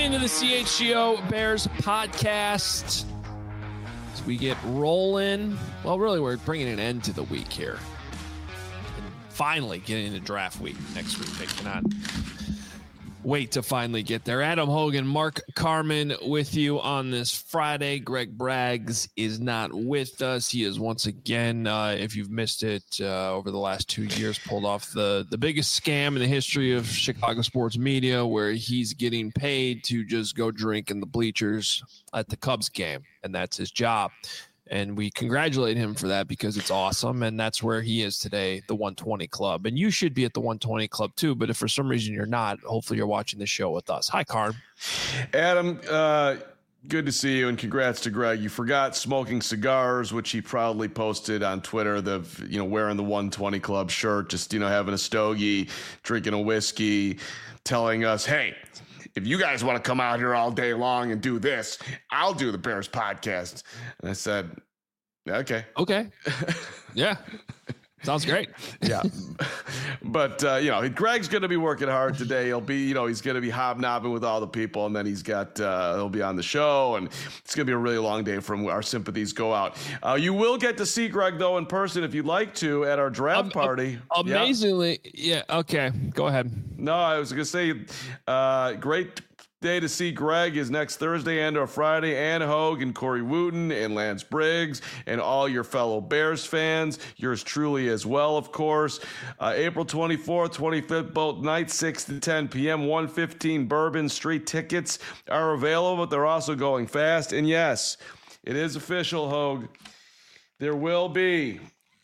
into the CHGO Bears podcast. As we get rolling, well, really, we're bringing an end to the week here. And finally getting into draft week next week. I cannot wait to finally get there. Adam Hogan, Mark Carman with you on this Friday. Greg Braggs is not with us. He is once again, if you've missed it, over the last 2 years, pulled off the biggest scam in the history of Chicago sports media, where he's getting paid to just go drink in the bleachers at the Cubs game, and that's his job. And we congratulate him for that because it's awesome. And that's where he is today, the 120 Club. And you should be at the 120 Club too. But if for some reason you're not, hopefully you're watching the show with us. Hi, Carm. Adam, good to see you. And congrats to Greg. You forgot smoking cigars, which he proudly posted on Twitter, wearing the 120 Club shirt, just, having a stogie, drinking a whiskey, telling us, hey, if you guys want to come out here all day long and do this, I'll do the Bears podcast. And I said, okay. Okay. Yeah. Sounds great. Yeah. But, Greg's going to be working hard today. He'll be, he's going to be hobnobbing with all the people, and then he'll be on the show, and it's going to be a really long day from our sympathies go out. You will get to see Greg, though, in person if you'd like to at our draft party. Amazingly. Yeah. Okay. Go ahead. No, I was going to say, great day to see Greg is next Thursday and or Friday. Ann Hogue and Corey Wooten and Lance Briggs and all your fellow Bears fans. Yours truly as well, of course. April 24th, 25th, both nights, 6 to 10 p.m., 115 Bourbon Street. Tickets are available, but they're also going fast. And yes, it is official, Hogue. There will be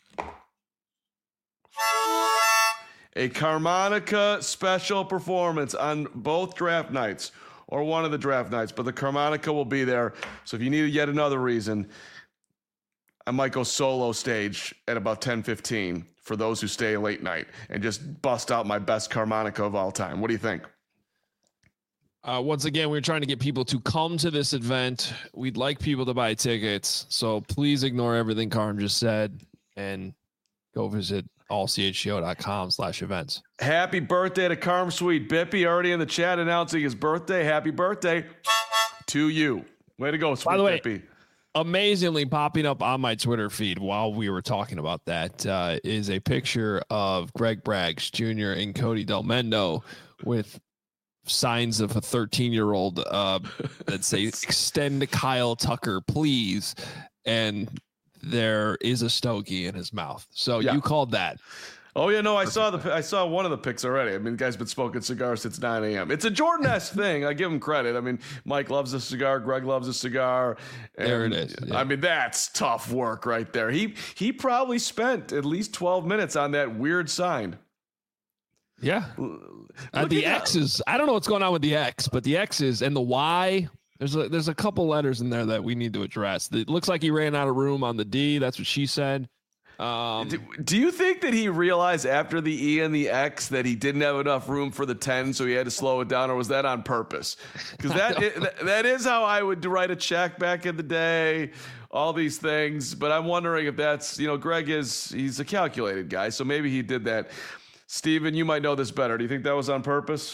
a Carmonica special performance on both draft nights, or one of the draft nights, but the Carmonica will be there. So if you need yet another reason, I might go solo stage at about 10:15 for those who stay late night and just bust out my best Carmonica of all time. What do you think? Once again, we're trying to get people to come to this event. We'd like people to buy tickets, so please ignore everything Carm just said and go visit allchgo.com/events. Happy birthday to Carm Sweet. Bippy already in the chat announcing his birthday. Happy birthday to you. Way to go, Sweet. By the way, Bippy. Amazingly popping up on my Twitter feed while we were talking about that is a picture of Greg Braggs Jr. and Cody Delmendo with signs of a 13-year-old that say "Extend Kyle Tucker, please," and there is a stogie in his mouth. So yeah. You called that. Oh yeah, no, I saw one of the pics already. I mean, the guy's been smoking cigars since 9 a.m. It's a Jordan-esque thing. I give him credit. I mean, Mike loves a cigar. Greg loves a cigar. There it is. Yeah. I mean, that's tough work right there. He probably spent at least 12 minutes on that weird sign. Yeah. The X's. I don't know what's going on with the X, but the X's and the Y. There's a couple letters in there that we need to address. It looks like he ran out of room on the D. That's what she said. Do you think that he realized after the E and the X that he didn't have enough room for the 10, so he had to slow it down, or was that on purpose? Because that is how I would write a check back in the day, all these things. But I'm wondering if that's, Greg he's a calculated guy, so maybe he did that. Steven, you might know this better. Do you think that was on purpose?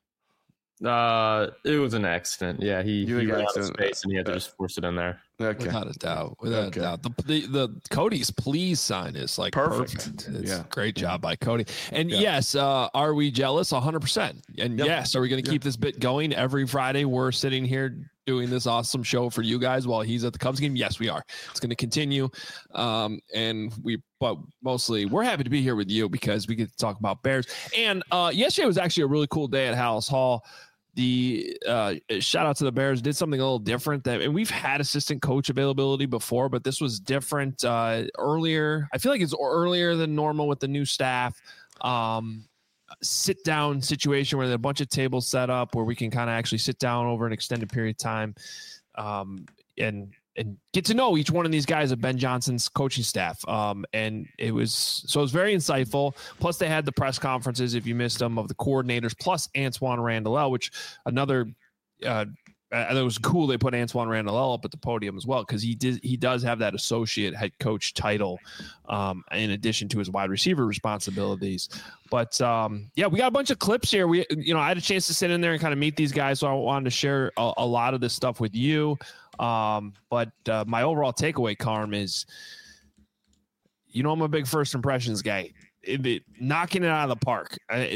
It was an accident. Yeah, he ran out of space and he had to just force it in there. Okay. Without a doubt. The Cody's please sign is like perfect. It's great job by Cody. And yes, are we jealous? 100%. And yes, are we going to keep this bit going every Friday? We're sitting here doing this awesome show for you guys while he's at the Cubs game. Yes, we are. It's going to continue. But mostly we're happy to be here with you because we get to talk about Bears. And yesterday was actually a really cool day at Hallis Hall. The shout out to the Bears did something a little different and we've had assistant coach availability before, but this was different earlier. I feel like it's earlier than normal with the new staff. Sit down situation where there's a bunch of tables set up where we can kind of actually sit down over an extended period of time and get to know each one of these guys of Ben Johnson's coaching staff. And it was very insightful. Plus they had the press conferences, if you missed them, of the coordinators, plus Antoine Randall, which another it was cool they put Antwaan Randle up at the podium as well, because he does have that associate head coach title in addition to his wide receiver responsibilities. But we got a bunch of clips here. I had a chance to sit in there and kind of meet these guys, so I wanted to share a lot of this stuff with you. But my overall takeaway, Carm, is, I'm a big first impressions guy. Knocking it out of the park.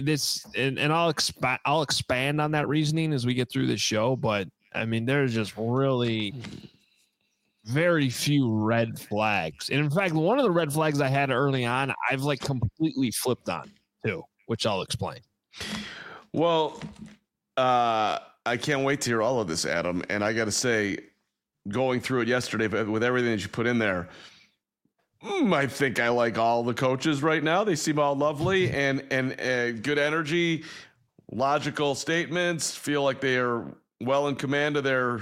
I'll expand on that reasoning as we get through the show. But I mean, there's just really very few red flags. And in fact, one of the red flags I had early on, I've completely flipped on too, which I'll explain. Well, I can't wait to hear all of this, Adam. And I got to say, going through it yesterday with everything that you put in there, I think I like all the coaches right now. They seem all lovely and good energy, logical statements, feel like they are well in command of their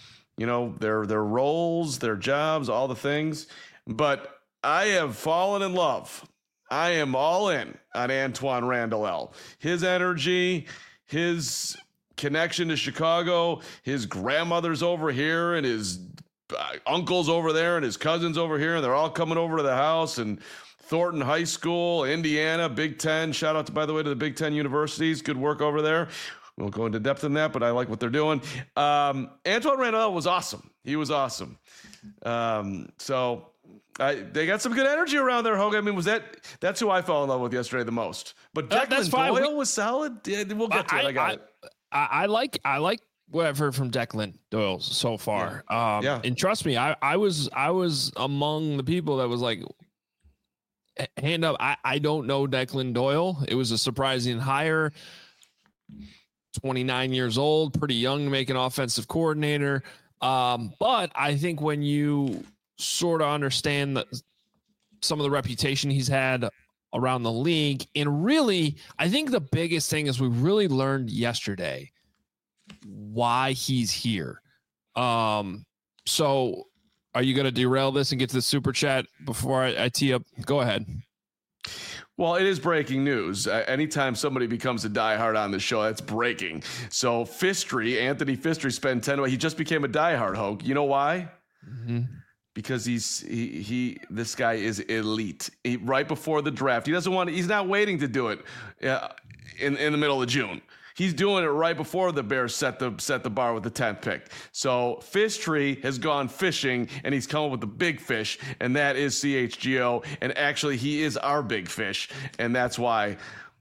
roles, their jobs, all the things. But I have fallen in love. I am all in on Antwaan Randle. His energy, his connection to Chicago, his grandmother's over here and his uncle's over there and his cousins over here, and they're all coming over to the house. And Thornton High School, Indiana, Big Ten. Shout out, by the way, to the Big Ten universities. Good work over there. We won't go into depth in that, but I like what they're doing. Antwaan Randle was awesome. He was awesome. So they got some good energy around there, Hogan. I mean, that's who I fell in love with yesterday the most. But Declan Doyle was solid. Yeah, we'll get to it. I got it. I like what I've heard from Declan Doyle so far. And trust me, I was among the people that was like, hand up, I don't know Declan Doyle. It was a surprising hire. 29 years old, pretty young to make an offensive coordinator. But I think when you sort of understand some of the reputation he's had around the league, and really, I think the biggest thing is we really learned yesterday why he's here. So are you going to derail this and get to the super chat before I tee up? Go ahead. Well, it is breaking news. Anytime somebody becomes a diehard on the show, that's breaking. So Anthony Fistry he just became a diehard, Hogue. You know why? Mm-hmm. Because this guy is elite. Right before the draft, he's not waiting to do it in the middle of June. He's doing it right before the Bears set the bar with the 10th pick. So Fistry has gone fishing, and he's come up with the big fish, and that is CHGO. And actually, he is our big fish, and that's why,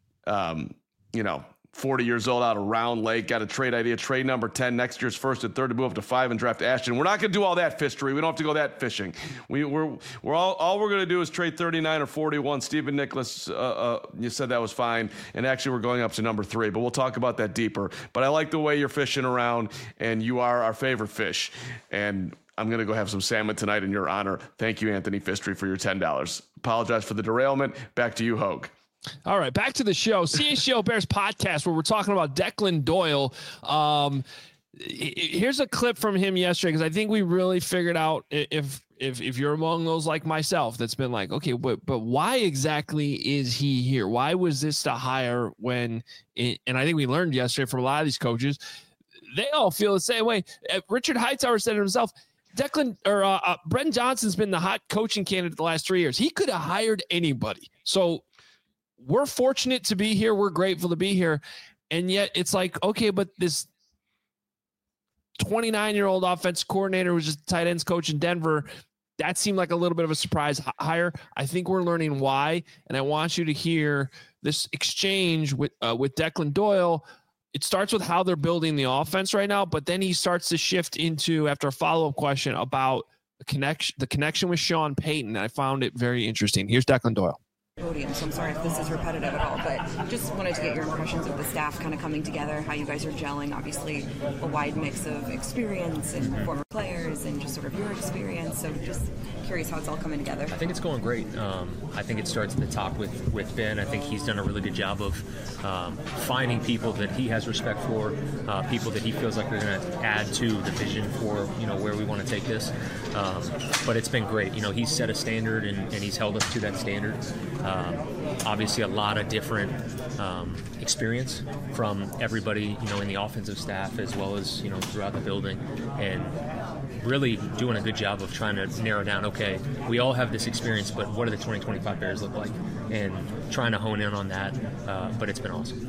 40 years old out of Round Lake, got a trade idea, trade number 10, next year's first and third to move up to 5 and draft Ashton. We're not going to do all that Fistry. We don't have to go that fishing. We're all we're going to do is trade 39 or 41. Stephen Nicholas, you said that was fine. And actually, we're going up to number 3, but we'll talk about that deeper. But I like the way you're fishing around, and you are our favorite fish. And I'm going to go have some salmon tonight in your honor. Thank you, Anthony Fistry, for your $10. Apologize for the derailment. Back to you, Hogue. All right, back to the show. CHGO Bears podcast, where we're talking about Declan Doyle. Here's a clip from him yesterday, because I think we really figured out, if you're among those like myself that's been like, okay, but why exactly is he here? Why was this to hire and I think we learned yesterday from a lot of these coaches, they all feel the same way. Richard Hightower said it himself. Brenton Johnson's been the hot coaching candidate the last 3 years. He could have hired anybody. So we're fortunate to be here. We're grateful to be here. And yet it's like, okay, but this 29-year-old offensive coordinator was just a tight ends coach in Denver. That seemed like a little bit of a surprise hire. I think we're learning why. And I want you to hear this exchange with Declan Doyle. It starts with how they're building the offense right now, but then he starts to shift into, after a follow-up question, about the connection with Sean Payton. I found it very interesting. Here's Declan Doyle. Podium, so I'm sorry if this is repetitive at all, but just wanted to get your impressions of the staff kind of coming together, how you guys are gelling. Obviously a wide mix of experience and former players and just sort of your experience, so just curious how it's all coming together. I think it's going great. I think it starts at the top with Ben. I think he's done a really good job of finding people that he has respect for, people that he feels like are going to add to the vision for where we want to take this. But it's been great. He's set a standard and he's held us to that standard. Obviously, a lot of different experience from everybody, in the offensive staff as well as, throughout the building, and really doing a good job of trying to narrow down, okay, we all have this experience, but what do the 2025 Bears look like? And trying to hone in on that, but it's been awesome.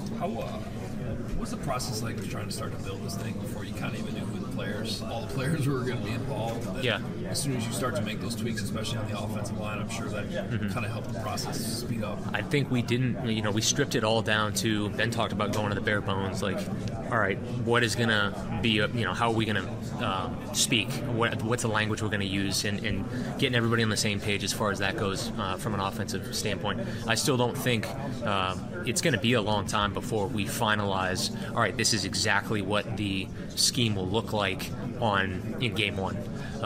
What was the process like of trying to start to build this thing before you kind of even knew who all the players who were going to be involved? Yeah. As soon as you start to make those tweaks, especially on the offensive line, I'm sure that kind of helped the process speed up. I think we didn't, we stripped it all down to, Ben talked about going to the bare bones, like, all right, what is going to be, how are we going to speak? What's the language we're going to use? And getting everybody on the same page as far as that goes from an offensive standpoint. I still don't think it's going to be a long time before we finalize, all right, this is exactly what the scheme will look like in game one.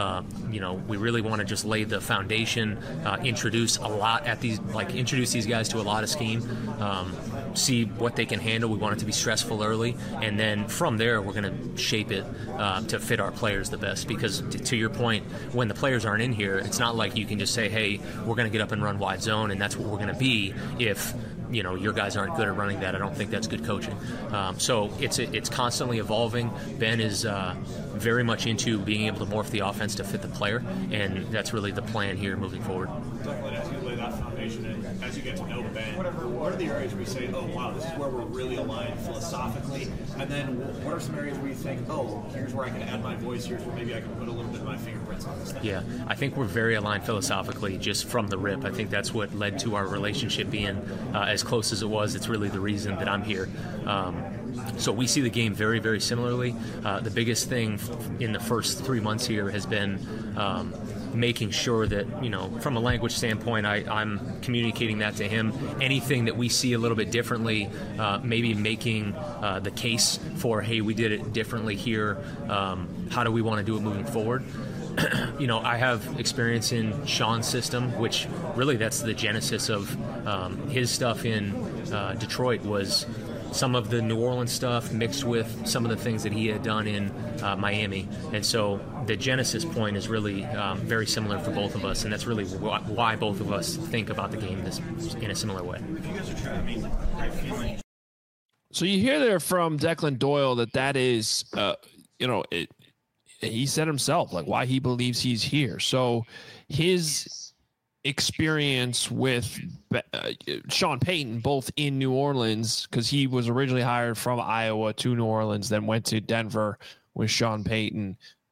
We really want to just lay the foundation, introduce these guys to a lot of scheme, see what they can handle. We want it to be stressful early, and then from there we're going to shape it to fit our players the best. Because to your point, when the players aren't in here, it's not like you can just say, hey, we're going to get up and run wide zone, and that's what we're going to be if your guys aren't good at running that. I don't think that's good coaching. So it's constantly evolving. Ben is very much into being able to morph the offense to fit the player, and that's really the plan here moving forward. As you lay that foundation and as you get to know Ben, what are the areas where you say, oh, wow, this is where we're really aligned philosophically? And then what are some areas where you think, oh, here's where I can add my voice, here's where maybe I can put a little bit of my fingerprints on this thing? Yeah, I think we're very aligned philosophically just from the rip. I think that's what led to our relationship being as close as it was. It's really the reason that I'm here. So we see the game very, very similarly. The biggest thing in the first 3 months here has been making sure that, from a language standpoint, I'm communicating that to him. Anything that we see a little bit differently, maybe making the case for, hey, we did it differently here. How do we want to do it moving forward? I have experience in Sean's system, which really that's the genesis of his stuff in Detroit was some of the New Orleans stuff mixed with some of the things that he had done in Miami. And so the genesis point is really very similar for both of us, and that's really why both of us think about the game in a similar way. So you hear there from Declan Doyle that is, he said himself, like, why he believes he's here. So his experience with Sean Payton, both in New Orleans, because he was originally hired from Iowa to New Orleans, then went to Denver with Sean Payton.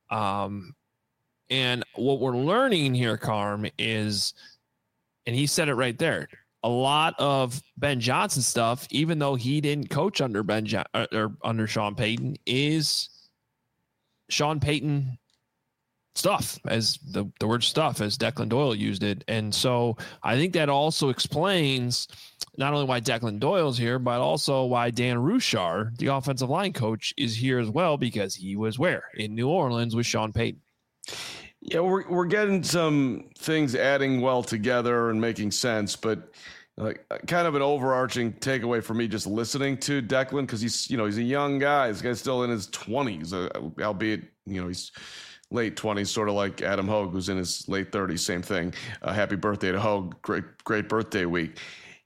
And what we're learning here, Carm, is, and he said it right there, a lot of Ben Johnson stuff, even though he didn't coach under under Sean Payton, is Sean Payton stuff, as the word stuff, as Declan Doyle used it. And so I think that also explains not only why Declan Doyle's here, but also why Dan Ruchar, the offensive line coach, is here as well, because he was where? In New Orleans with Sean Payton. Yeah, we're getting some things adding well together and making sense, but kind of an overarching takeaway for me just listening to Declan, because he's a young guy. This guy's still in his 20s, albeit he's late 20s, sort of like Adam Hogue, who's in his late 30s. Same thing. Happy birthday to Hogue. Great birthday week.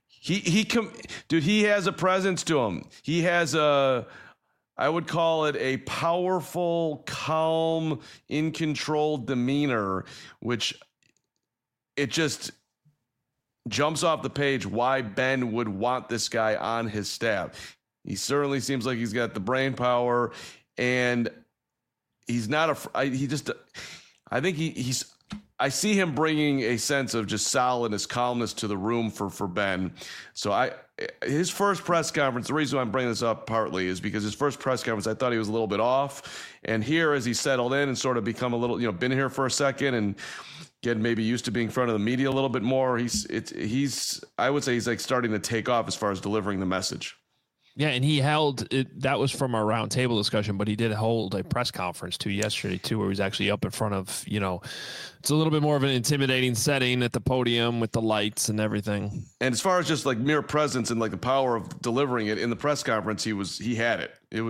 He has a presence to him. He has I would call it a powerful, calm, in control demeanor, which it just jumps off the page why Ben would want this guy on his staff. He certainly seems like he's got the brain power, and he's not I see him bringing a sense of just solidness, calmness to the room for Ben. So his first press conference, the reason why I'm bringing this up partly is because his first press conference, I thought he was a little bit off. And here, as he settled in and sort of become a little, been here for a second and getting maybe used to being in front of the media a little bit more, I would say he's like starting to take off as far as delivering the message. Yeah, and he held it. That was from our roundtable discussion, but he did hold a press conference yesterday where he was actually up in front of, it's a little bit more of an intimidating setting at the podium with the lights and everything. And as far as just like mere presence and like the power of delivering it in the press conference, he had it. It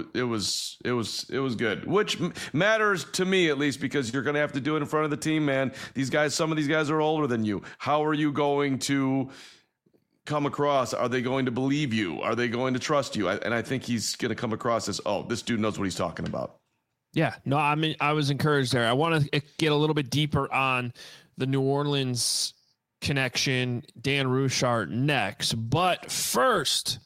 was good, which matters to me at least, because you're going to have to do it in front of the team, man. Some of these guys are older than you. How are you going to come across? Are they going to believe you? Are they going to trust you? And I think he's going to come across as, this dude knows what he's talking about. Yeah, no, I mean, I was encouraged there. I want to get a little bit deeper on the New Orleans connection, Dan Rouchard next. But first,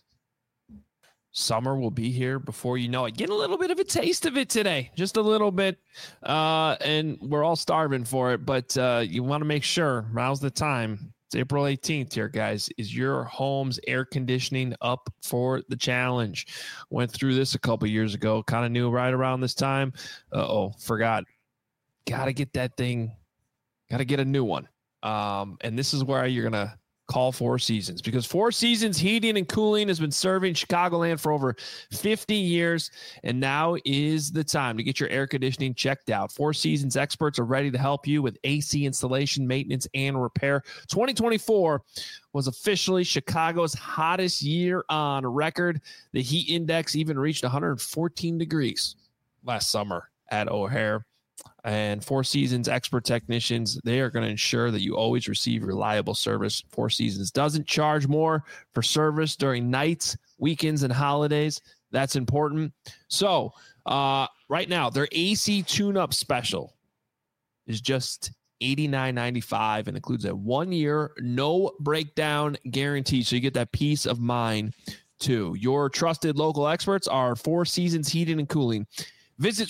summer will be here before you know it. Get a little bit of a taste of it today, just a little bit. And we're all starving for it, but you want to make sure now's the time. It's April 18th here, guys. Is your home's air conditioning up for the challenge? Went through this a couple years ago. Kind of knew right around this time. Forgot. Got to get that thing. Got to get a new one. And this is where you're going to call Four Seasons, because Four Seasons Heating and Cooling has been serving Chicagoland for over 50 years, and now is the time to get your air conditioning checked out. Four Seasons experts are ready to help you with AC installation, maintenance, and repair. 2024 was officially Chicago's hottest year on record. The heat index even reached 114 degrees last summer at O'Hare. And Four Seasons expert technicians, they are going to ensure that you always receive reliable service. Four Seasons doesn't charge more for service during nights, weekends, and holidays. That's important. So right now, their AC tune-up special is just $89.95 and includes a 1-year no breakdown guarantee. So you get that peace of mind too. Your trusted local experts are Four Seasons Heating and Cooling. Visit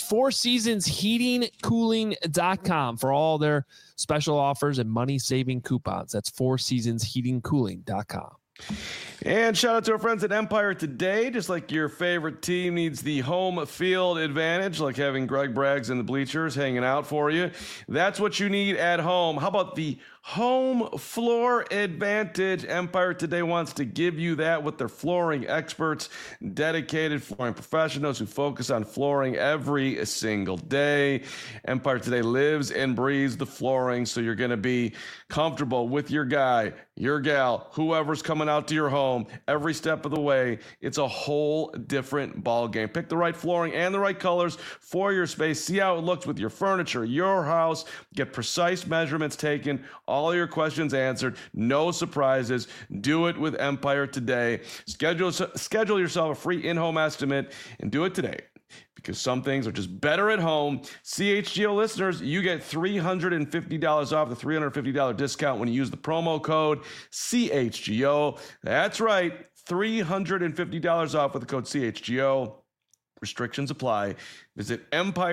fourseasonsheatingcooling.com for all their special offers and money-saving coupons. That's fourseasonsheatingcooling.com. And shout out to our friends at Empire Today. Just like your favorite team needs the home field advantage, like having Greg Braggs in the bleachers hanging out for you, that's what you need at home. How about the home floor advantage? Empire Today wants to give you that with their flooring experts, dedicated flooring professionals who focus on flooring every single day. Empire Today lives and breathes the flooring, so you're going to be comfortable with your guy, your gal, whoever's coming out to your home every step of the way. It's a whole different ball game. Pick the right flooring and the right colors for your space. See how it looks with your furniture, your house. Get precise measurements taken, all your questions answered, no surprises. Do it with Empire Today. Schedule yourself a free in-home estimate and do it today, because some things are just better at home. CHGO listeners, you get $350 off, the $350 discount when you use the promo code CHGO. That's right, $350 off with the code CHGO. Restrictions apply. Visit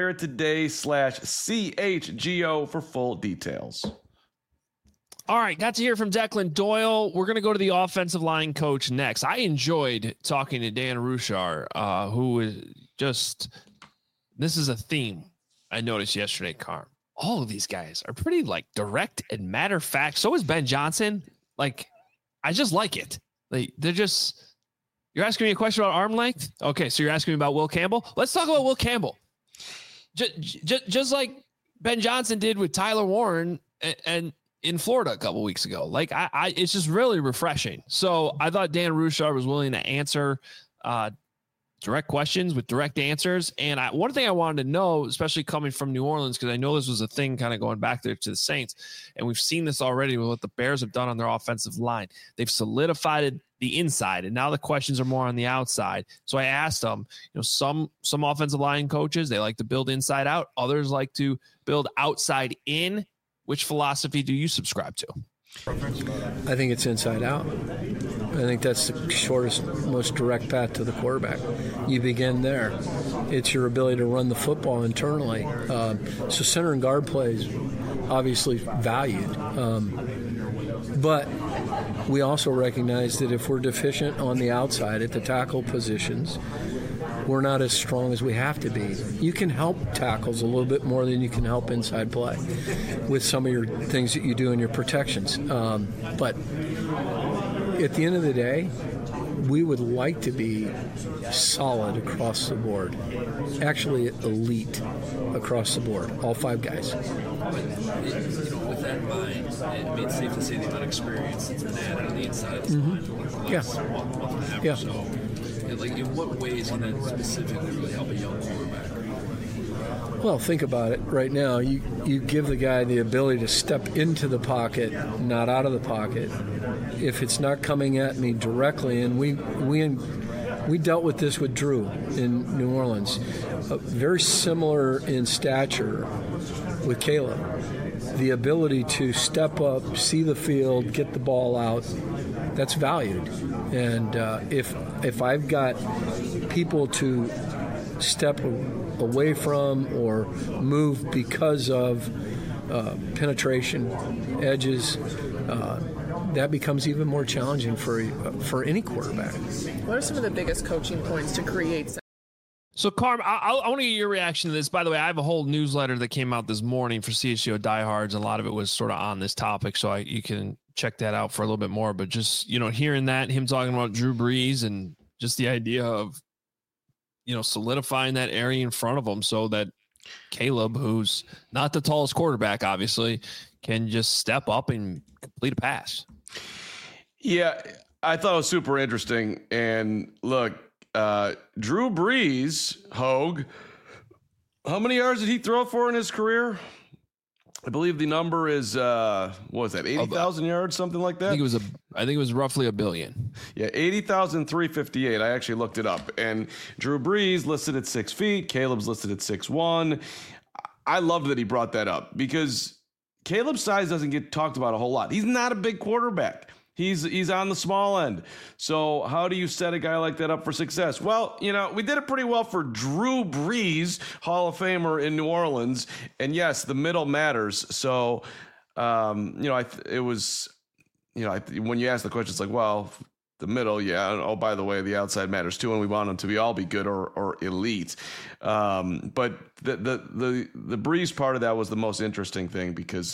EmpireToday.com/CHGO for full details. All right, got to hear from Declan Doyle. We're going to go to the offensive line coach next. I enjoyed talking to Dan Rouchard, who is just, this is a theme I noticed yesterday, Carm. All of these guys are pretty direct and matter of fact. So is Ben Johnson. I just like it. They're just, you're asking me a question about arm length? Okay, so you're asking me about Will Campbell? Let's talk about Will Campbell. Just like Ben Johnson did with Tyler Warren and in Florida a couple weeks ago. It's just really refreshing. So I thought Dan Rouchard was willing to answer direct questions with direct answers. And one thing I wanted to know, especially coming from New Orleans, because I know this was a thing kind of going back there to the Saints, and we've seen this already with what the Bears have done on their offensive line. They've solidified the inside, and now the questions are more on the outside. So I asked them, some offensive line coaches, they like to build inside out. Others like to build outside in. Which philosophy do you subscribe to? I think it's inside out. I think that's the shortest, most direct path to the quarterback. You begin there. It's your ability to run the football internally. So center and guard play is obviously valued. But we also recognize that if we're deficient on the outside at the tackle positions, we're not as strong as we have to be. You can help tackles a little bit more than you can help inside play with some of your things that you do in your protections. But at the end of the day, we would like to be solid across the board, actually elite across the board, all 5 guys. With that in mind, it's safe to say the amount of experience that's been added on the inside of this line for the last month and a half or so. Like, in what ways can that specifically really help a young quarterback? Well, think about it right now. You give the guy the ability to step into the pocket, not out of the pocket. If it's not coming at me directly, and we dealt with this with Drew in New Orleans, very similar in stature with Caleb. The ability to step up, see the field, get the ball out, that's valued. And if I've got people to step away from or move because of penetration, edges, that becomes even more challenging for any quarterback. What are some of the biggest coaching points to create? So, Carm, I want to get your reaction to this. By the way, I have a whole newsletter that came out this morning for CSGO diehards. A lot of it was sort of on this topic, so you can check that out for a little bit more. But just, hearing that, him talking about Drew Brees and just the idea of, solidifying that area in front of him so that Caleb, who's not the tallest quarterback, obviously, can just step up and complete a pass. Yeah, I thought it was super interesting. And look, Drew Brees, Hogue, how many yards did he throw for in his career? I believe the number is what was that, 80,000 yards, something like that? I think it was roughly 1 billion. Yeah, 80,358. I actually looked it up. And Drew Brees listed at 6 feet. Caleb's listed at 6'1". I love that he brought that up because Caleb's size doesn't get talked about a whole lot. He's not a big quarterback. He's on the small end. So how do you set a guy like that up for success? Well, we did it pretty well for Drew Brees, Hall of Famer in New Orleans. And yes, the middle matters. So, it was, when you ask the question, it's like, well, the middle, yeah. Oh, by the way, the outside matters too, and we want them to all be good or elite. But the Brees part of that was the most interesting thing because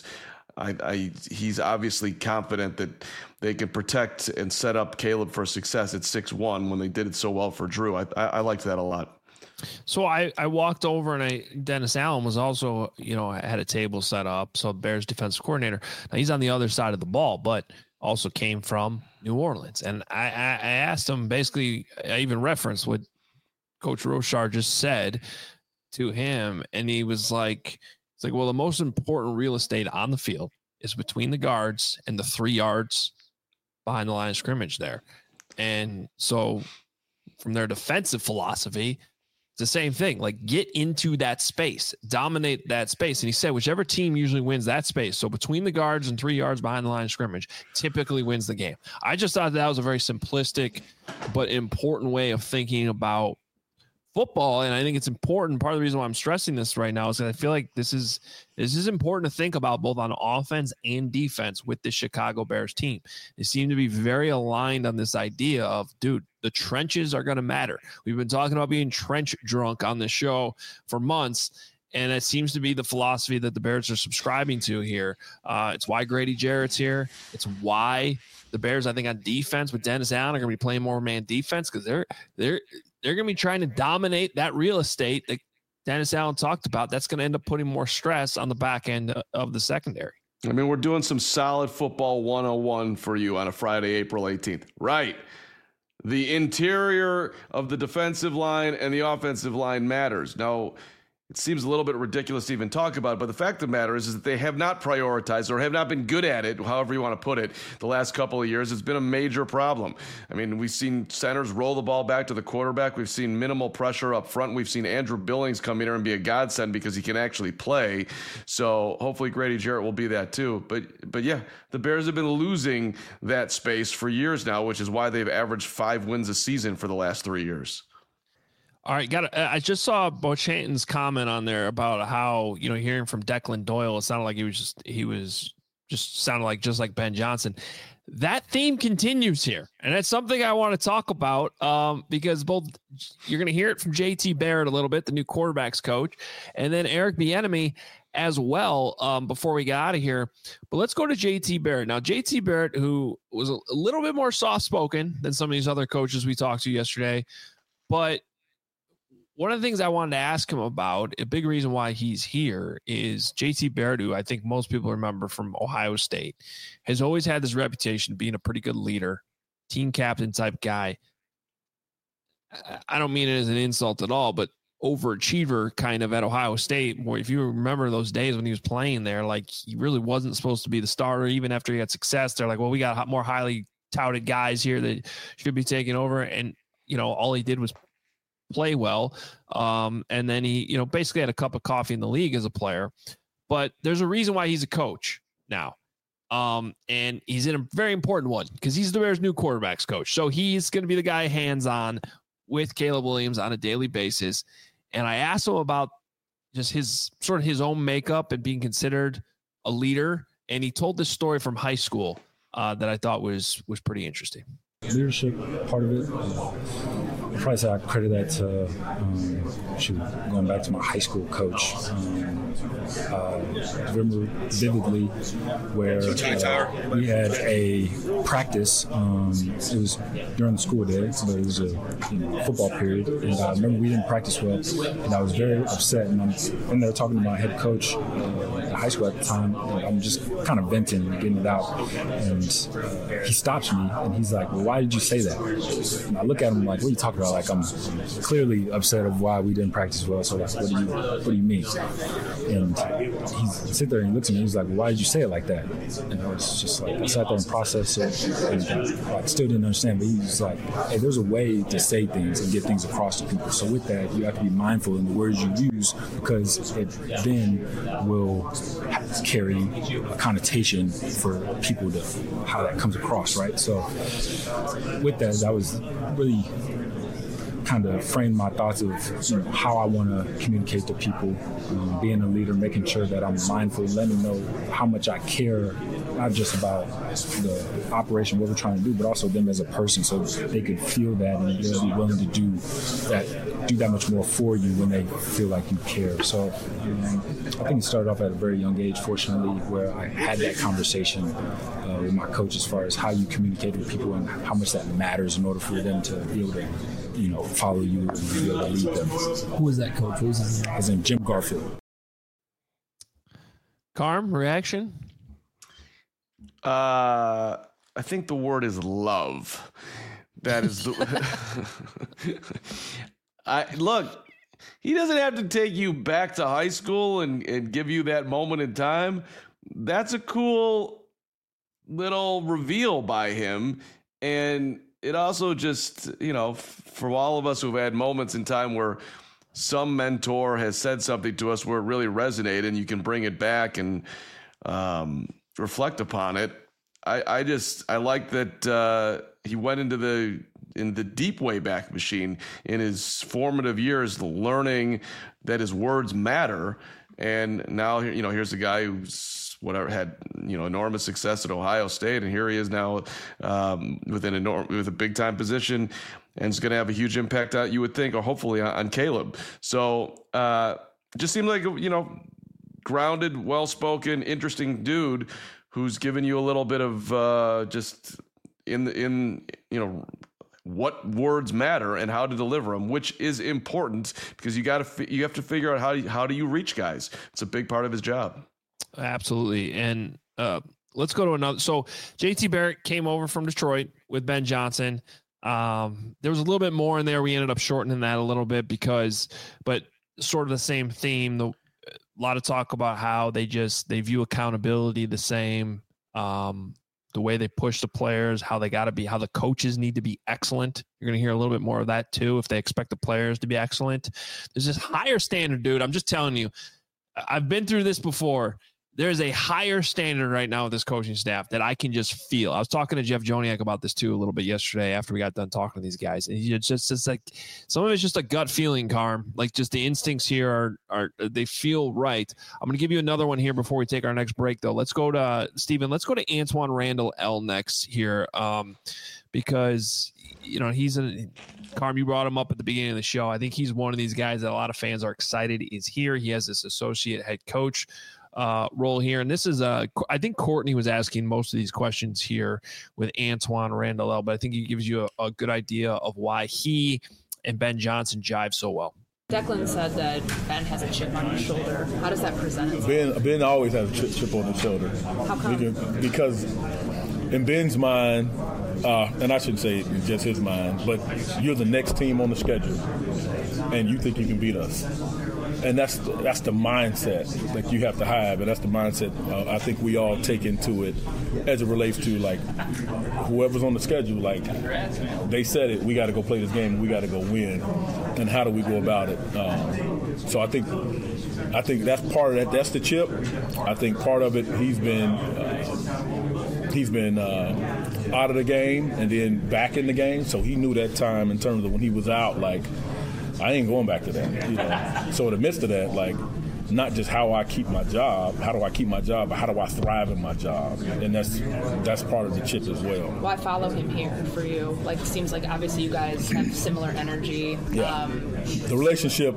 he's obviously confident that they could protect and set up Caleb for success at 6'1" when they did it so well for Drew. I liked that a lot. So I walked over and Dennis Allen was also, had a table set up. So Bears defensive coordinator. Now he's on the other side of the ball, but also came from New Orleans. And I asked him, basically, I even referenced what Coach Rochard just said to him. And he was like, well, the most important real estate on the field is between the guards and the 3 yards behind the line of scrimmage there. And so from their defensive philosophy, it's the same thing. Like, get into that space, dominate that space. And he said, whichever team usually wins that space, so between the guards and 3 yards behind the line of scrimmage, typically wins the game. I just thought that was a very simplistic but important way of thinking about football, and I think it's important. Part of the reason why I'm stressing this right now is that I feel like this is important to think about both on offense and defense with the Chicago Bears team. They seem to be very aligned on this idea of, dude, the trenches are going to matter. We've been talking about being trench drunk on this show for months, and it seems to be the philosophy that the Bears are subscribing to here. It's why Grady Jarrett's here. It's why the Bears, I think, on defense with Dennis Allen are going to be playing more man defense because they're going to be trying to dominate that real estate that Dennis Allen talked about. That's going to end up putting more stress on the back end of the secondary. I mean, we're doing some solid football 101 for you on a Friday, April 18th. Right. The interior of the defensive line and the offensive line matters. Now, it seems a little bit ridiculous to even talk about it, but the fact of the matter is that they have not prioritized or have not been good at it, however you want to put it, the last couple of years. It's been a major problem. I mean, we've seen centers roll the ball back to the quarterback. We've seen minimal pressure up front. We've seen Andrew Billings come in here and be a godsend because he can actually play. So hopefully Grady Jarrett will be that too. But yeah, the Bears have been losing that space for years now, which is why they've averaged 5 wins a season for the last 3 years. All right, I just saw Bochanton's comment on there about how, hearing from Declan Doyle, it sounded like he was just sounded like just like Ben Johnson. that theme continues here. And that's something I want to talk about because you're going to hear it from JT Barrett a little bit, the new quarterbacks coach, and then Eric Bieniemy as well before we get out of here. But let's go to JT Barrett. Now, JT Barrett, who was a little bit more soft-spoken than some of these other coaches we talked to yesterday, but one of the things I wanted to ask him about, a big reason why he's here, is JT Barrett, who I think most people remember from Ohio State, has always had this reputation of being a pretty good leader, team captain type guy. I don't mean it as an insult at all, but overachiever kind of at Ohio State. Boy, if you remember those days when he was playing there, like he really wasn't supposed to be the starter. Even after he had success, they're like, well, we got more highly touted guys here that should be taking over. And, all he did was play well. And then he, basically had a cup of coffee in the league as a player, but there's a reason why he's a coach now. And he's in a very important one because he's the Bears' new quarterbacks coach. So he's going to be the guy hands-on with Caleb Williams on a daily basis. And I asked him about just his own makeup and being considered a leader. And he told this story from high school that I thought was pretty interesting. Leadership part of it, I'd probably say I credit that to going back to my high school coach. I remember vividly where we had a practice. It was during the school day, but it was a football period, and I remember we didn't practice well, and I was very upset. And I'm in there talking to my head coach at high school at the time. And I'm just kind of venting, getting it out, and he stops me, and he's like, "Well, why did you say that?" And I look at him like, "What are you talking about?" Like, I'm clearly upset of why we didn't practice well. So like, what do you mean? And he sit there and he looks at me. He's like, well, "Why did you say it like that?" And I was just like, I sat there and processed it, and I still didn't understand. But he was like, "Hey, there's a way to say things and get things across to people. So with that, you have to be mindful in the words you use because it then will carry a connotation for people to how that comes across, right?" So with that, I was really kind of framed my thoughts of how I want to communicate to people, being a leader, making sure that I'm mindful, letting them know how much I care, not just about the operation, what we're trying to do, but also them as a person, so they could feel that and they'll be willing to do that much more for you when they feel like you care. So I think it started off at a very young age, fortunately, where I had that conversation with my coach as far as how you communicate with people and how much that matters in order for them to be able to follow you and be able to lead them. Who was that coach? What was his name? His name, Jim Garfield. Carm, reaction? I think the word is love. That is the look, he doesn't have to take you back to high school and give you that moment in time. That's a cool little reveal by him. And it also just, for all of us who've had moments in time where some mentor has said something to us where it really resonated and you can bring it back and reflect upon it. I like that he went into the deep way back machine in his formative years, learning that his words matter. And now, here's a guy who's had enormous success at Ohio State, and here he is now with a big time position, and it's going to have a huge impact on, you would think, or hopefully on Caleb. So just seemed like grounded, well spoken, interesting dude who's given you a little bit of just in what words matter and how to deliver them, which is important because you have to figure out how do you reach guys. It's a big part of his job. Absolutely. And let's go to another. So JT Barrett came over from Detroit with Ben Johnson. There was a little bit more in there. We ended up shortening that a little bit but sort of the same theme. A lot of talk about how they view accountability the same. The way they push the players, how they got to be, how the coaches need to be excellent. You're going to hear a little bit more of that too. If they expect the players to be excellent, there's this higher standard, dude. I'm just telling you, I've been through this before. there's a higher standard right now with this coaching staff that I can just feel. I was talking to Jeff Joniak about this too a little bit yesterday after we got done talking to these guys, and it's just like some of it's just a gut feeling, Carm. Like just the instincts here are they feel right. I'm going to give you another one here before we take our next break, though. Let's go to Steven. Let's go to Antoine Randall L next here, because he's Carm, you brought him up at the beginning of the show. I think he's one of these guys that a lot of fans are excited is here. He has this associate head coach role here. And this is I think Courtney was asking most of these questions here with Antoine Randall L, but I think he gives you a good idea of why he and Ben Johnson jive so well. Declan said that Ben has a chip on his shoulder. How does that present itself? Ben always has a chip on his shoulder. How come? Because in Ben's mind, and I shouldn't say just his mind, but you're the next team on the schedule, and you think you can beat us. And that's the mindset that you have to have, and that's the mindset I think we all take into it as it relates to, like, whoever's on the schedule. Like, they said it, we got to go play this game, we got to go win, and how do we go about it? So I think that's part of that. That's the chip. I think part of it, he's been out of the game and then back in the game, so he knew that time in terms of when he was out, like, I ain't going back to that. So in the midst of that, like, not just how I keep my job, how do I keep my job, but how do I thrive in my job? And that's part of the chip as well. Why follow him here for you? Like, it seems like obviously you guys have similar energy. Yeah. The relationship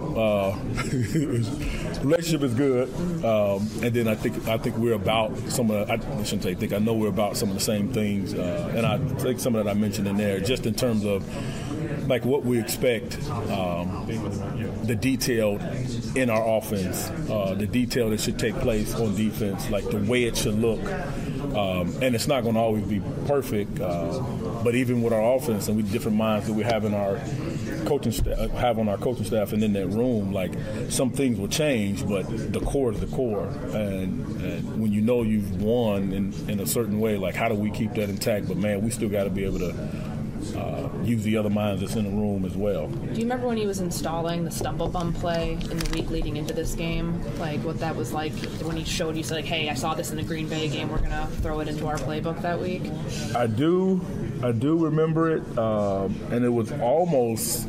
is good. And then I think we're about some of the, I shouldn't say think, I know we're about some of the same things. And I think some of that I mentioned in there, just in terms of like what we expect, the detail in our offense, the detail that should take place on defense, like the way it should look. And it's not going to always be perfect, but even with our offense and with different minds that we have in our coaching staff and in that room, like some things will change, but the core is the core. And when you know you've won in a certain way, like how do we keep that intact? But man, we still got to be able to use the other minds that's in the room as well. Do you remember when he was installing the stumble bum play in the week leading into this game? Like what that was like when he showed you, said like, hey, I saw this in the Green Bay game, we're going to throw it into our playbook that week? I do remember it, and it was almost,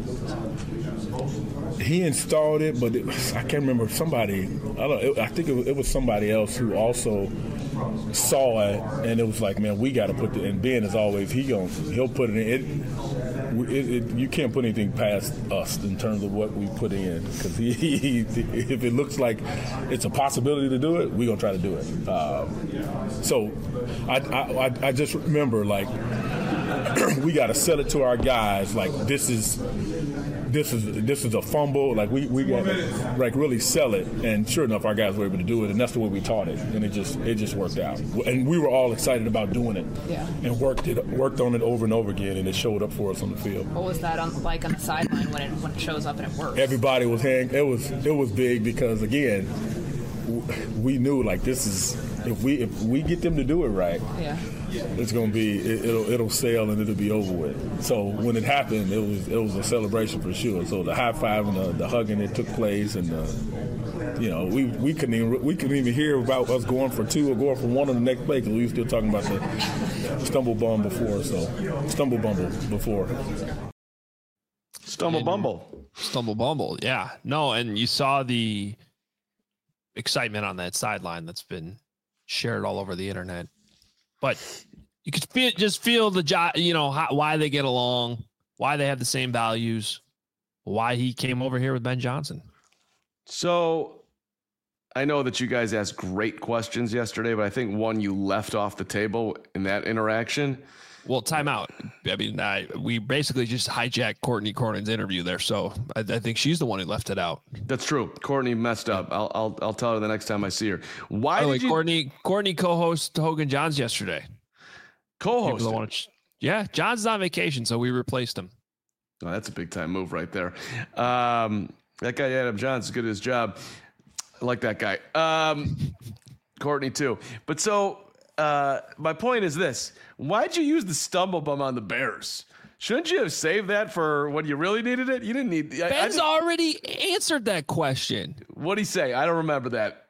he installed it, but I can't remember somebody, I think it was somebody else who also saw it, and it was like, man, we got to put it. And Ben, as always, he'll put it in. You can't put anything past us in terms of what we put in, because if it looks like it's a possibility to do it, we're gonna try to do it. So I just remember, like, we got to sell it to our guys, like this is a fumble, like we got to like really sell it, and sure enough our guys were able to do it, and that's the way we taught it, and it just worked out, and we were all excited about doing it. Yeah. And worked on it over and over again, and it showed up for us on the field. What was that like on the sideline when it shows up and it works? Everybody was it was big, because again we knew, like, this is, if we get them to do it right, yeah, it's gonna be, it'll sail and it'll be over with. So when it happened, it was a celebration for sure. So the high five and the hugging that took place, and we couldn't even hear about us going for two or going for one on the next play, because we were still talking about the stumble bumble before. Stumble bumble, yeah. No, and you saw the excitement on that sideline that's been shared all over the internet. But you could feel the why they get along, why they have the same values, why he came over here with Ben Johnson. So I know that you guys asked great questions yesterday, but I think one you left off the table in that interaction. Well, time out. I mean, we basically just hijacked Courtney Cornyn's interview there, so I think she's the one who left it out. That's true. Courtney messed up. I'll tell her the next time I see her. Courtney co-host Hogan Johns yesterday. Co-host. Yeah, John's on vacation, so we replaced him. Oh, that's a big time move right there. That guy Adam Johns is good at his job. I like that guy. Courtney too. But so. My point is this: why'd you use the stumble bum on the Bears? Shouldn't you have saved that for when you really needed it? You didn't need. Ben's already answered that question. What'd he say? I don't remember that.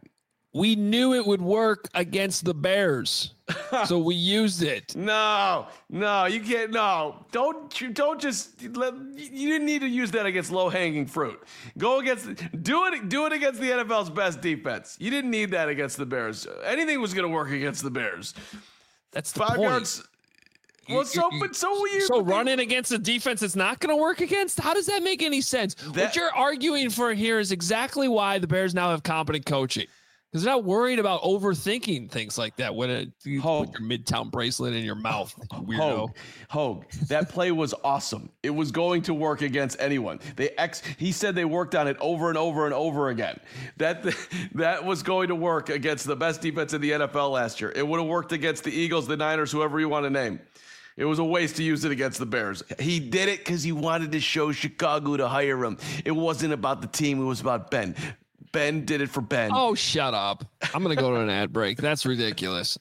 We knew it would work against the Bears, so we used it. No, you can't. No, don't just let. You didn't need to use that against low-hanging fruit. Do it against the NFL's best defense. You didn't need that against the Bears. Anything was going to work against the Bears. That's the 5 point. Yards. Well, so running against a defense that's not going to work against? How does that make any sense? What you're arguing for here is exactly why the Bears now have competent coaching. Because they're not worried about overthinking things like that when you put your Midtown bracelet in your mouth, weirdo. Hogue, that play was awesome. It was going to work against anyone. He said they worked on it over and over and over again. That was going to work against the best defense in the NFL last year. It would have worked against the Eagles, the Niners, whoever you want to name. It was a waste to use it against the Bears. He did it because he wanted to show Chicago to hire him. It wasn't about the team. It was about Ben. Ben did it for Ben. Oh, shut up. I'm going to go to an ad break. That's ridiculous.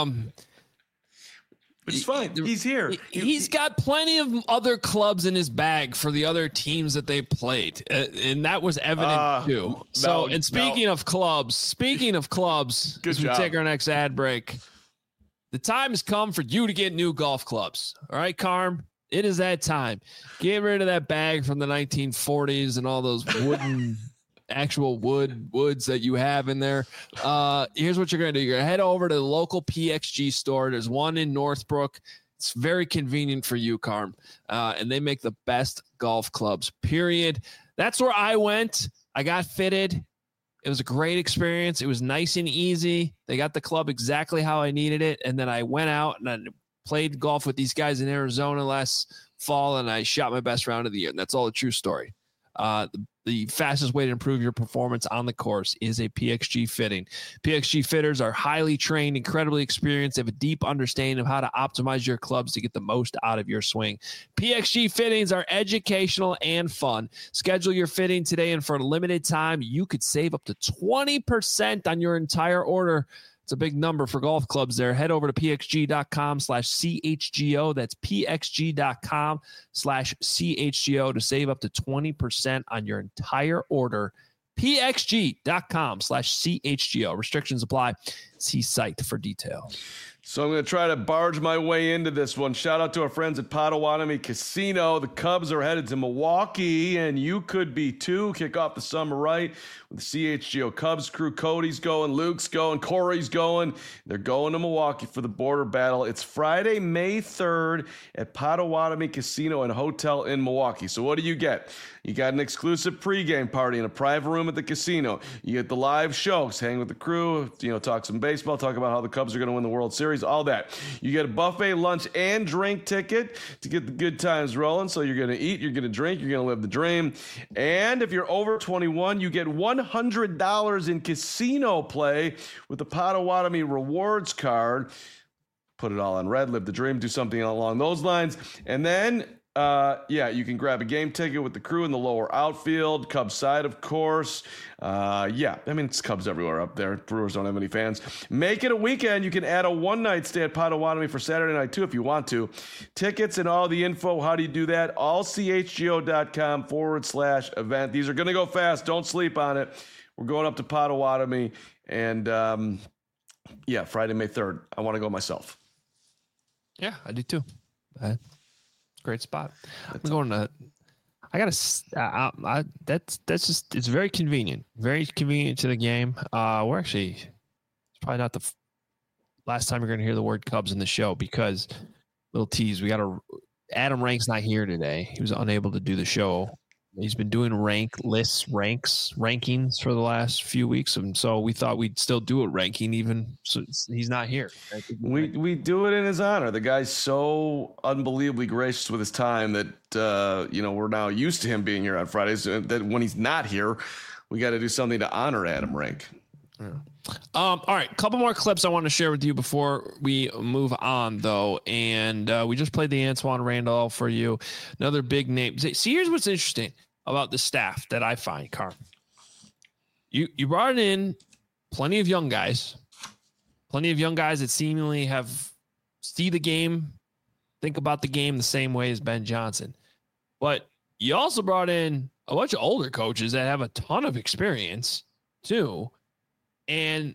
It's fine. He's here. He's got plenty of other clubs in his bag for the other teams that they played. And that was evident too. Speaking of clubs, as we take our next ad break, the time has come for you to get new golf clubs. All right, Carm? It is that time. Get rid of that bag from the 1940s and all those wooden actual woods that you have in there. Here's what you're going to do. You're going to head over to the local PXG store. There's one in Northbrook. It's very convenient for you, Carm. And they make the best golf clubs, period. That's where I went. I got fitted. It was a great experience. It was nice and easy. They got the club exactly how I needed it. And then I went out and I played golf with these guys in Arizona last fall, and I shot my best round of the year. And that's all a true story. The fastest way to improve your performance on the course is a PXG fitting. PXG fitters are highly trained, incredibly experienced. They have a deep understanding of how to optimize your clubs to get the most out of your swing. PXG fittings are educational and fun. Schedule your fitting today, and for a limited time, you could save up to 20% on your entire order. It's a big number for golf clubs there. Head over to pxg.com/CHGO. That's pxg.com/CHGO to save up to 20% on your entire order. pxg.com/CHGO. Restrictions apply. See site for details. So I'm going to try to barge my way into this one. Shout out to our friends at Potawatomi Casino. The Cubs are headed to Milwaukee, and you could be too. Kick off the summer right with the CHGO Cubs crew. Cody's going, Luke's going, Corey's going. They're going to Milwaukee for the border battle. It's Friday, May 3rd at Potawatomi Casino and Hotel in Milwaukee. So what do you get? You got an exclusive pregame party in a private room at the casino. You get the live shows, hang with the crew, talk some baseball, talk about how the Cubs are going to win the World Series, all that. You get a buffet lunch and drink ticket to get the good times rolling. So you're going to eat, you're going to drink, you're going to live the dream. And if you're over 21, you get $100 in casino play with the Potawatomi Rewards card. Put it all on red, live the dream, do something along those lines. And then you can grab a game ticket with the crew in the lower outfield, Cubs side, of course. It's Cubs everywhere up there. Brewers don't have any fans. Make it a weekend. You can add a one-night stay at Potawatomi for Saturday night, too, if you want to. Tickets and all the info, how do you do that? allchgo.com/event. These are going to go fast. Don't sleep on it. We're going up to Potawatomi, and, Friday, May 3rd. I want to go myself. Yeah, I do, too. Great spot. I'm going to. I gotta. That's just. It's very convenient. Very convenient to the game. We're actually. It's probably not the last time you're going to hear the word Cubs in the show, because little tease. We got Adam Rank's not here today. He was unable to do the show. He's been doing rankings for the last few weeks, and so we thought we'd still do a ranking even so he's not here. We do it in his honor. The guy's so unbelievably gracious with his time that we're now used to him being here on Fridays. That when he's not here, we got to do something to honor Adam Rank. Yeah. All right, a couple more clips I want to share with you before we move on, though. And we just played the Antoine Randolph for you. Another big name. See, here's what's interesting about the staff that I find, Carm. You brought in plenty of young guys that seemingly see the game, think about the game the same way as Ben Johnson. But you also brought in a bunch of older coaches that have a ton of experience, too. And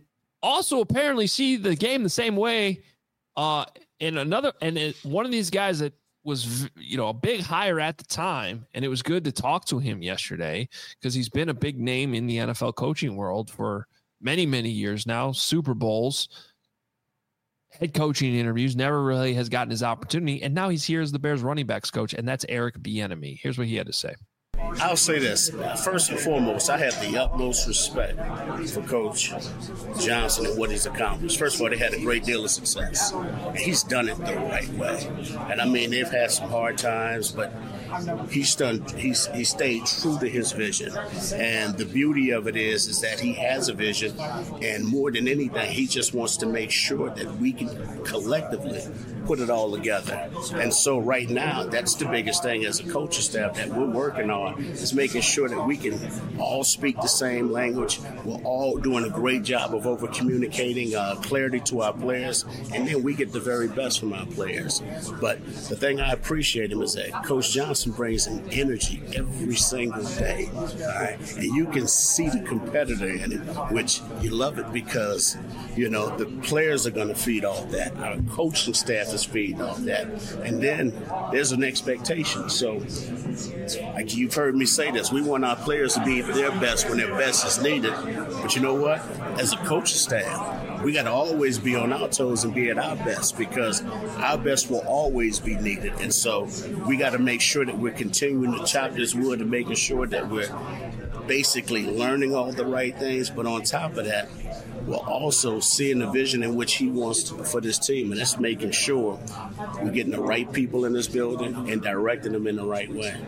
also apparently see the game the same way. One of these guys that was, a big hire at the time, and it was good to talk to him yesterday because he's been a big name in the NFL coaching world for many, many years now. Super Bowls, head coaching interviews, never really has gotten his opportunity, and now he's here as the Bears running backs coach, and that's Eric Bieniemy. Here's what he had to say. I'll say this. First and foremost, I have the utmost respect for Coach Johnson and what he's accomplished. First of all, they had a great deal of success. And he's done it the right way. And I mean, they've had some hard times, but he stayed true to his vision. And the beauty of it is that he has a vision, and more than anything, he just wants to make sure that we can collectively put it all together. And so right now, that's the biggest thing as a coaching staff that we're working on, is making sure that we can all speak the same language. We're all doing a great job of over-communicating clarity to our players, and then we get the very best from our players. But the thing I appreciate him is that Coach Johnson brings an energy every single day. All right? And you can see the competitor in him, which you love it because, the players are going to feed off that. Our coaching staff is feeding off that. And then there's an expectation. So, like you've heard me say this, we want our players to be their best when their best is needed. But you know what? As a coaching staff, we got to always be on our toes and be at our best, because our best will always be needed. And so we got to make sure that we're continuing to chop this wood and making sure that we're basically learning all the right things. But on top of that, we're also seeing the vision in which he wants for this team. And that's making sure we're getting the right people in this building and directing them in the right way.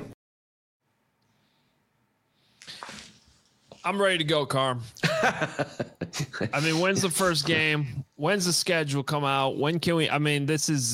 I'm ready to go, Carm. I mean, when's the first game? When's the schedule come out? When can we? I mean,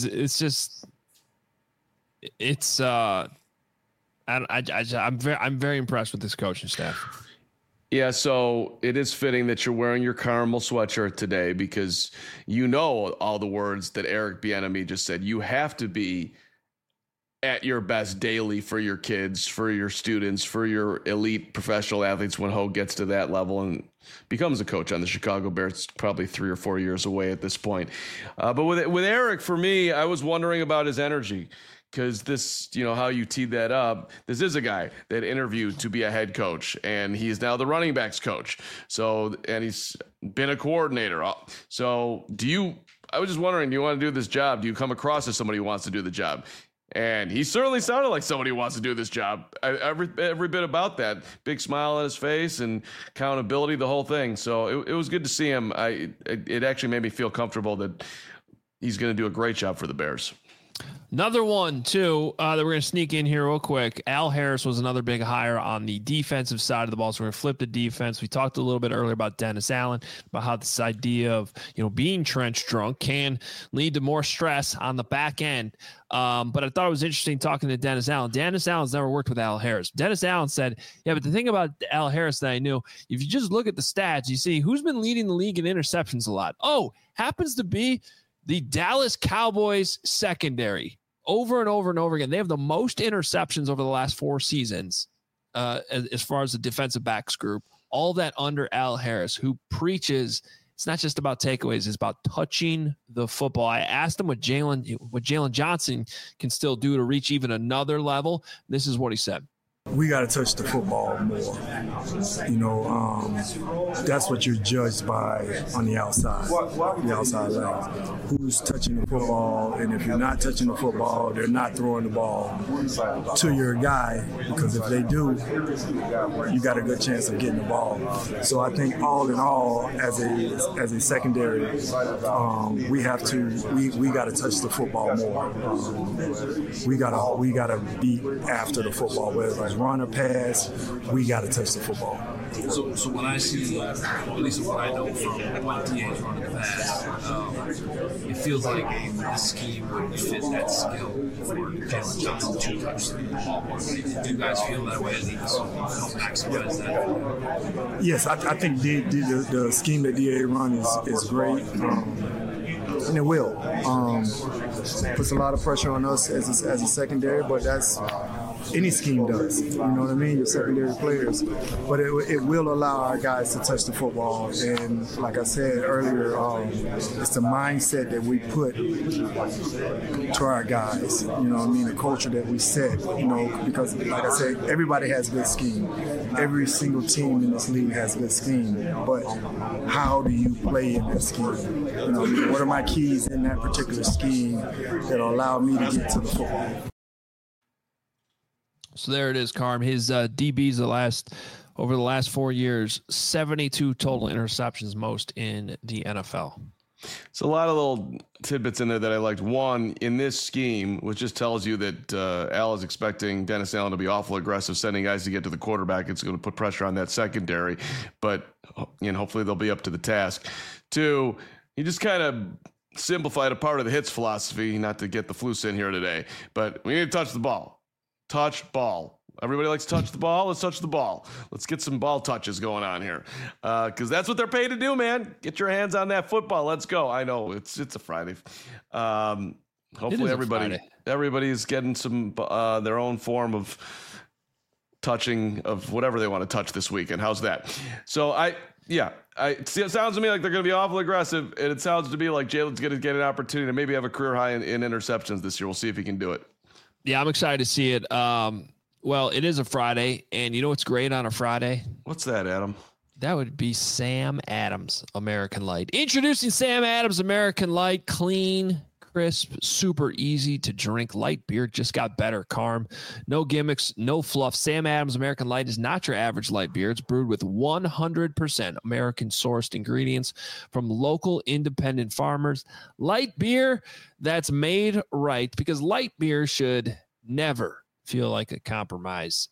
I'm very impressed with this coaching staff. Yeah, so it is fitting that you're wearing your caramel sweatshirt today, because all the words that Eric Bieniemy just said. You have to be at your best daily for your kids, for your students, for your elite professional athletes when Hogue gets to that level and becomes a coach on the Chicago Bears. Probably 3 or 4 years away at this point. But with Eric, for me, I was wondering about his energy. Because this, how you teed that up, this is a guy that interviewed to be a head coach, and he's now the running backs coach. So, and he's been a coordinator. So I was just wondering, do you want to do this job? Do you come across as somebody who wants to do the job? And he certainly sounded like somebody who wants to do this job. Every bit about that. Big smile on his face and accountability, the whole thing. So it was good to see him. It actually made me feel comfortable that he's going to do a great job for the Bears. Another one, too, that we're going to sneak in here real quick. Al Harris was another big hire on the defensive side of the ball. So we're going to flip the defense. We talked a little bit earlier about Dennis Allen, about how this idea of, being trench drunk can lead to more stress on the back end. But I thought it was interesting talking to Dennis Allen. Dennis Allen's never worked with Al Harris. Dennis Allen said, but the thing about Al Harris that I knew, if you just look at the stats, you see who's been leading the league in interceptions a lot. Happens to be the Dallas Cowboys secondary. Over and over and over again. They have the most interceptions over the last 4 seasons as far as the defensive backs group. All that under Al Harris, who preaches it's not just about takeaways, it's about touching the football. I asked him what Jalen Johnson can still do to reach even another level. This is what he said. We got to touch the football more. That's what you're judged by on the outside legs. Who's touching the football, and if you're not touching the football, they're not throwing the ball to your guy, because if they do, you got a good chance of getting the ball. So I think all in all, as a secondary, we got to touch the football more. We got to beat after the football, whether it's run or pass, we got to touch the football. So when I see, at least what I know from what DA's running the pass, it feels like this scheme would fit that skill for Jalen Johnson to touch the ball more. Do you guys feel that way? Help maximize that? Yes, I think the scheme that DA runs is great. And it will. Puts a lot of pressure on us as a secondary, but that's any scheme does. You know what I mean? Your secondary players. But it will allow our guys to touch the football. And like I said earlier, it's the mindset that we put to our guys. You know what I mean? The culture that we set, you know, because like I said, everybody has good scheme. Every single team in this league has good scheme. But how do you play in that scheme? You know, what are my keys in that particular scheme that'll allow me to get to the football? So there it is, Carm. His DBs over the last 4 years, 72 total interceptions, most in the NFL. So a lot of little tidbits in there that I liked. One, in this scheme, which just tells you that Al is expecting Dennis Allen to be awful aggressive, sending guys to get to the quarterback. It's going to put pressure on that secondary, but hopefully they'll be up to the task. Two, he just kind of simplified a part of the hits philosophy, not to get the flus in here today, but we need to touch the ball. Touch ball. Everybody likes to touch the ball. Let's touch the ball. Let's get some ball touches going on here, because that's what they're paid to do, man. Get your hands on that football. Let's go. I know it's a Friday. Hopefully everybody's getting some their own form of touching of whatever they want to touch this weekend. How's that? So it sounds to me like they're going to be awful aggressive, and it sounds to me like Jalen's going to get an opportunity to maybe have a career high in interceptions this year. We'll see if he can do it. Yeah, I'm excited to see it. Well, it is a Friday, and you know what's great on a Friday? What's that, Adam? That would be Sam Adams American Light. Introducing Sam Adams American Light. Clean, crisp, super easy to drink light beer. Just got better, Carm. No gimmicks, no fluff. Sam Adams American Light is not your average light beer. It's brewed with 100% American-sourced ingredients from local independent farmers. Light beer that's made right, because light beer should never feel like a compromise.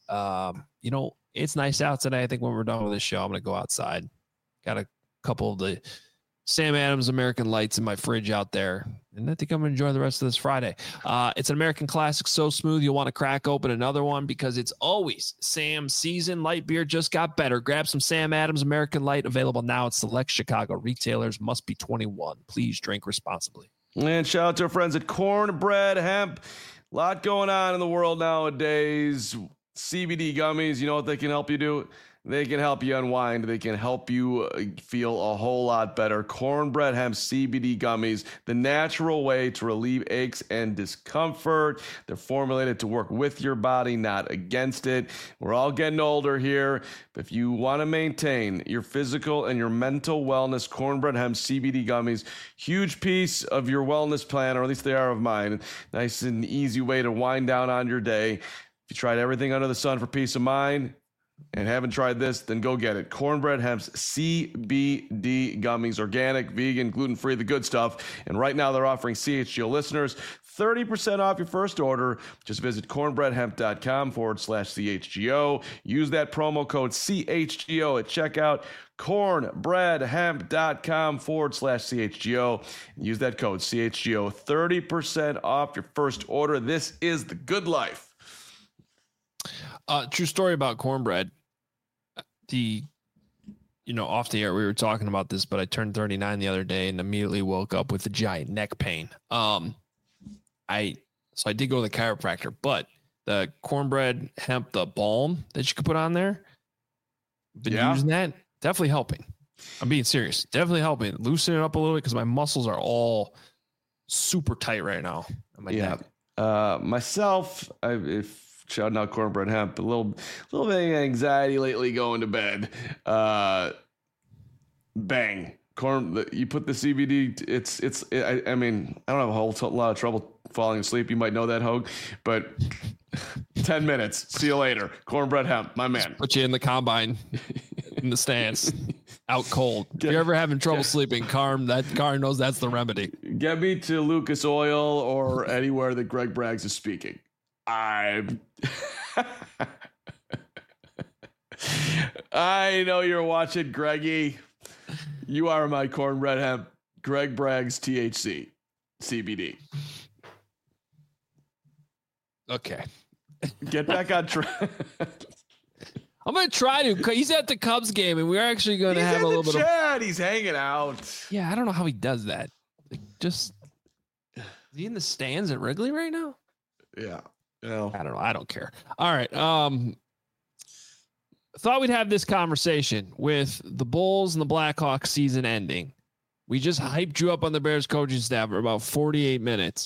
It's nice out today. I think when we're done with this show, I'm going to go outside. Got a couple of the Sam Adams American Lights in my fridge out there, and I think I'm going to enjoy the rest of this Friday. It's an American classic, so smooth you'll want to crack open another one, because it's always Sam season. Light beer just got better. Grab some Sam Adams American Light, available now at select Chicago retailers. Must be 21. Please drink responsibly. And shout out to our friends at Cornbread Hemp. A lot going on in the world nowadays. CBD gummies, you know what they can help you do? They can help you unwind. They can help you feel a whole lot better. Cornbread Hemp CBD gummies, the natural way to relieve aches and discomfort. They're formulated to work with your body, not against it. We're all getting older here. But if you want to maintain your physical and your mental wellness, Cornbread Hemp CBD gummies, huge piece of your wellness plan, or at least they are of mine. Nice and easy way to wind down on your day. If you tried everything under the sun for peace of mind and haven't tried this, then go get it. Cornbread Hemp's CBD gummies, organic, vegan, gluten-free, the good stuff. And right now they're offering CHGO listeners 30% off your first order. Just visit cornbreadhemp.com/CHGO. Use that promo code CHGO at checkout. cornbreadhemp.com/CHGO. Use that code CHGO. 30% off your first order. This is the good life. True story about cornbread. Off the air, we were talking about this, but I turned 39 the other day and immediately woke up with a giant neck pain. I did go to the chiropractor, but the cornbread hemp, the balm that you could put on there, been using that, definitely helping. I'm being serious. Definitely helping. Loosen it up a little bit, because my muscles are all super tight right now. Myself, shouting out Cornbread Hemp, a little bit of anxiety lately going to bed. Bang. You put the CBD, I don't have a whole lot of trouble falling asleep. You might know that, Hogue, but 10 minutes. See you later. Cornbread Hemp, my man. Just put you in the combine, in the stands, out cold. If you're ever having trouble sleeping, Carm knows that's the remedy. Get me to Lucas Oil or anywhere that Greg Braggs is speaking. I know you're watching, Greggy. You are my Cornbread Hemp, Greg Braggs THC, CBD. Okay. Get back on track. I'm going to try to. He's at the Cubs game, and we're actually going to have a little bit of... He's hanging out. Yeah, I don't know how he does that. Is he in the stands at Wrigley right now? Yeah. Yeah. I don't know. I don't care. All right. Thought we'd have this conversation with the Bulls and the Blackhawks season ending. We just hyped you up on the Bears coaching staff for about 48 minutes.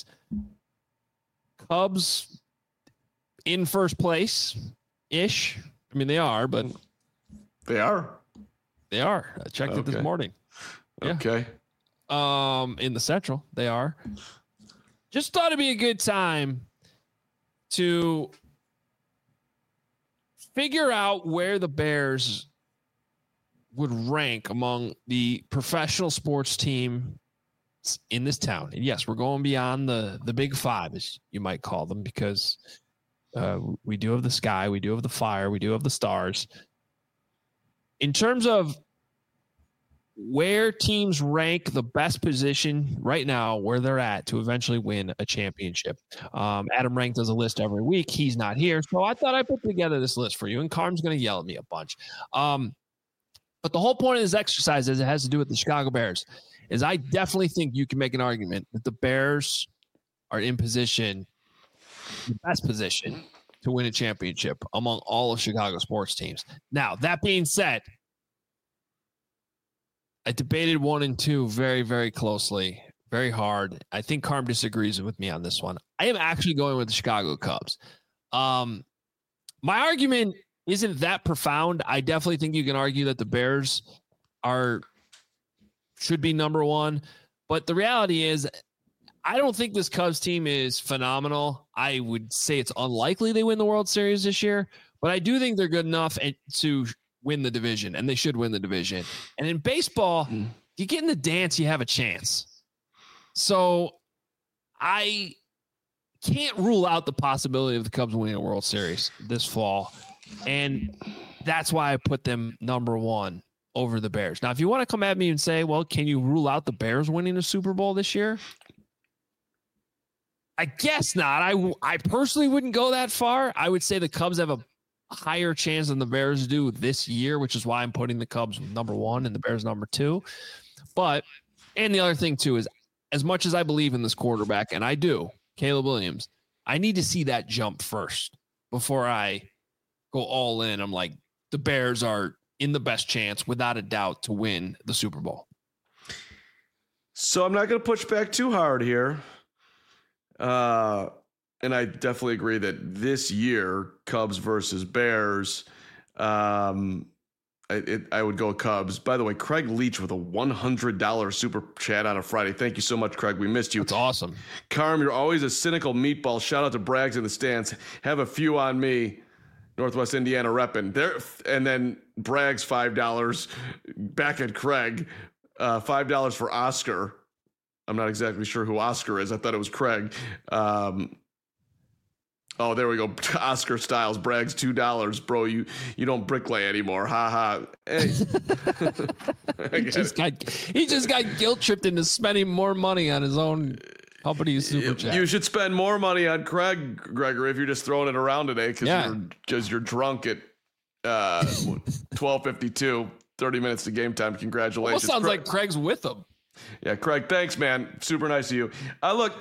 Cubs in first place-ish. I mean, they are, but... They are? They are. I checked it this morning. Yeah. Okay. In the Central, they are. Just thought it'd be a good time to figure out where the Bears would rank among the professional sports team in this town. And yes, we're going beyond the big five, as you might call them, because we do have the sky, we do have the fire, we do have the stars. In terms of where teams rank the best position right now, where they're at to eventually win a championship. Adam Rank does a list every week. He's not here. So I thought I'd put together this list for you, and Carm's going to yell at me a bunch. But the whole point of this exercise, as it has to do with the Chicago Bears, is I definitely think you can make an argument that the Bears are in position, the best position to win a championship among all of Chicago sports teams. Now, that being said, I debated 1 and 2 very, very closely, very hard. I think Carm disagrees with me on this one. I am actually going with the Chicago Cubs. My argument isn't that profound. I definitely think you can argue that the Bears should be number one. But the reality is, I don't think this Cubs team is phenomenal. I would say it's unlikely they win the World Series this year, but I do think they're good enough to win the division, and they should win the division. And in baseball, you get in the dance, you have a chance. So I can't rule out the possibility of the Cubs winning a World Series this fall. And that's why I put them number one over the Bears. Now, if you want to come at me and say, well, can you rule out the Bears winning a Super Bowl this year? I guess not. I personally wouldn't go that far. I would say the Cubs have a higher chance than the Bears do this year, which is why I'm putting the Cubs number one and the Bears number two. But, and the other thing too is, as much as I believe in this quarterback, and I do, Caleb Williams, I need to see that jump first before I go all in. I'm like, the Bears are in the best chance, without a doubt, to win the Super Bowl. So I'm not going to push back too hard here. And I definitely agree that this year, Cubs versus Bears, I would go Cubs. By the way, Craig Leach with a $100 super chat on a Friday. Thank you so much, Craig. We missed you. That's awesome. Carm, you're always a cynical meatball. Shout out to Braggs in the stands. Have a few on me. Northwest Indiana repping there. And then Braggs, $5 back at Craig. $5 for Oscar. I'm not exactly sure who Oscar is. I thought it was Craig. Oh, there we go. Oscar Styles, Braggs, $2. Bro, you don't bricklay anymore. Ha ha. Hey. he just got guilt tripped into spending more money on his own company's super chat. You should spend more money on Craig, Gregory, if you're just throwing it around today because you're drunk at 12:52, 30 minutes to game time. Congratulations. Well, sounds like Craig's with him. Yeah, Craig, thanks, man. Super nice of you. Look,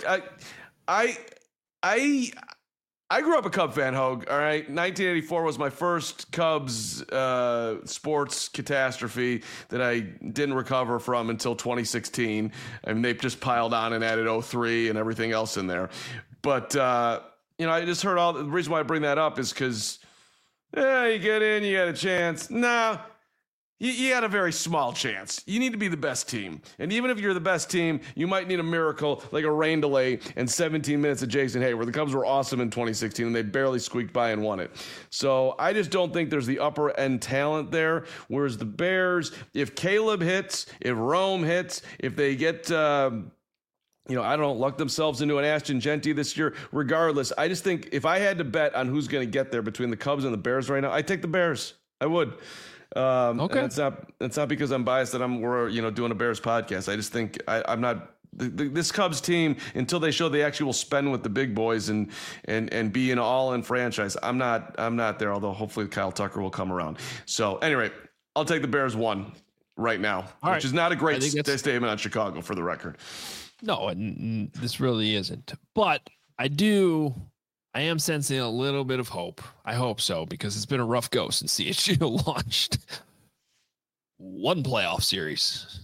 I grew up a Cub fan, Hogue. All right, 1984 was my first Cubs sports catastrophe that I didn't recover from until 2016. I mean, they just piled on and added 03 and everything else in there. But I just heard the reason why I bring that up is because you get in, you got a chance. Nah. You got a very small chance. You need to be the best team. And even if you're the best team, you might need a miracle like a rain delay and 17 minutes of Jason Hayward. The Cubs were awesome in 2016, and they barely squeaked by and won it. So I just don't think there's the upper end talent there. Whereas the Bears, if Caleb hits, if Rome hits, if they get... I don't know, luck themselves into an Ashton Genty this year. Regardless, I just think if I had to bet on who's going to get there between the Cubs and the Bears right now, I'd take the Bears. I would. Okay. And it's not because I'm biased that we're doing a Bears podcast. I just think I'm not this Cubs team until they show they actually will spend with the big boys and be an all-in franchise. I'm not there. Although hopefully Kyle Tucker will come around. So anyway, I'll take the Bears one right now, which is not a great statement on Chicago for the record. No, and this really isn't. But I do I am sensing a little bit of hope. I hope so, because it's been a rough go since CHGO launched one playoff series.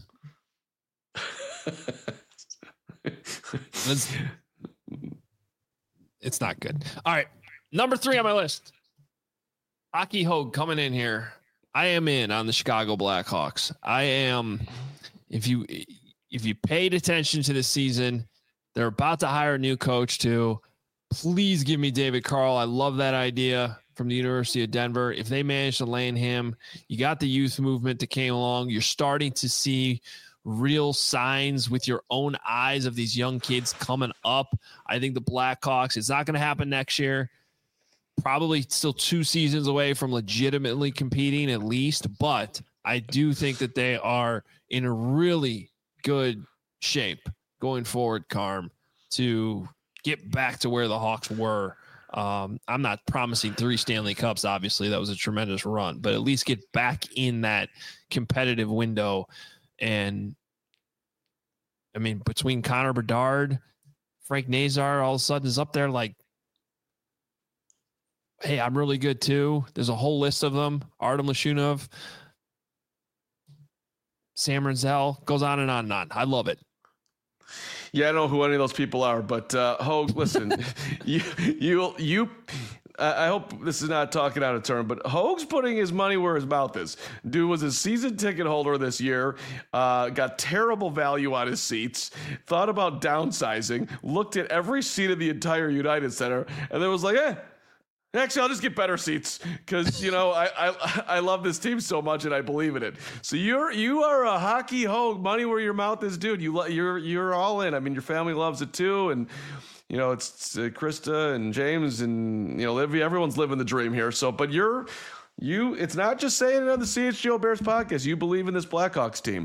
It's not good. All right. Number 3 on my list. Hockey Hogue coming in here. I am in on the Chicago Blackhawks. I am. If you paid attention to the season, they're about to hire a new coach too. Please give me David Carl. I love that idea from the University of Denver. If they manage to land him, you got the youth movement that came along. You're starting to see real signs with your own eyes of these young kids coming up. I think the Blackhawks, it's not going to happen next year. Probably still 2 seasons away from legitimately competing at least, but I do think that they are in a really good shape going forward, Carm, to get back to where the Hawks were. I'm not promising 3 Stanley Cups. Obviously, that was a tremendous run, but at least get back in that competitive window. And I mean, between Connor Bedard, Frank Nazar, all of a sudden is up there like, hey, I'm really good too. There's a whole list of them. Artem Lashunov, Sam Renzel, goes on and on and on. I love it. Yeah, I don't know who any of those people are, but Hogue, listen, I hope this is not talking out of turn, but Hogue's putting his money where his mouth is. Dude was a season ticket holder this year, got terrible value on his seats, thought about downsizing, looked at every seat of the entire United Center, and then was like, actually, I'll just get better seats because, I love this team so much and I believe in it. So you are a Hockey Hogue, money where your mouth is, dude. You're all in. I mean, your family loves it too, and it's Krista and James and Livy. Everyone's living the dream here. So, but it's not just saying it on the CHGO Bears podcast. You believe in this Blackhawks team.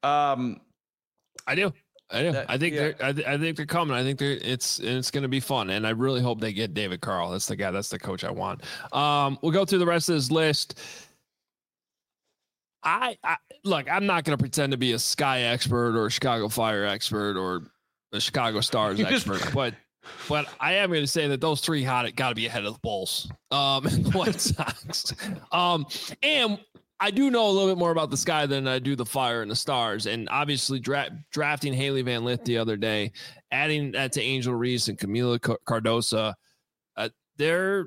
I do. I think they're coming. I think it's going to be fun, and I really hope they get David Carl. That's the guy. That's the coach I want. We'll go through the rest of this list. Look, I'm not going to pretend to be a Sky expert or a Chicago Fire expert or a Chicago Stars expert, but I am going to say that those 3 got to be ahead of the Bulls and the White Sox. And I do know a little bit more about the Sky than I do the Fire and the Stars. And obviously drafting Haley Van Lith the other day, adding that to Angel Reese and Camila Cardosa, they're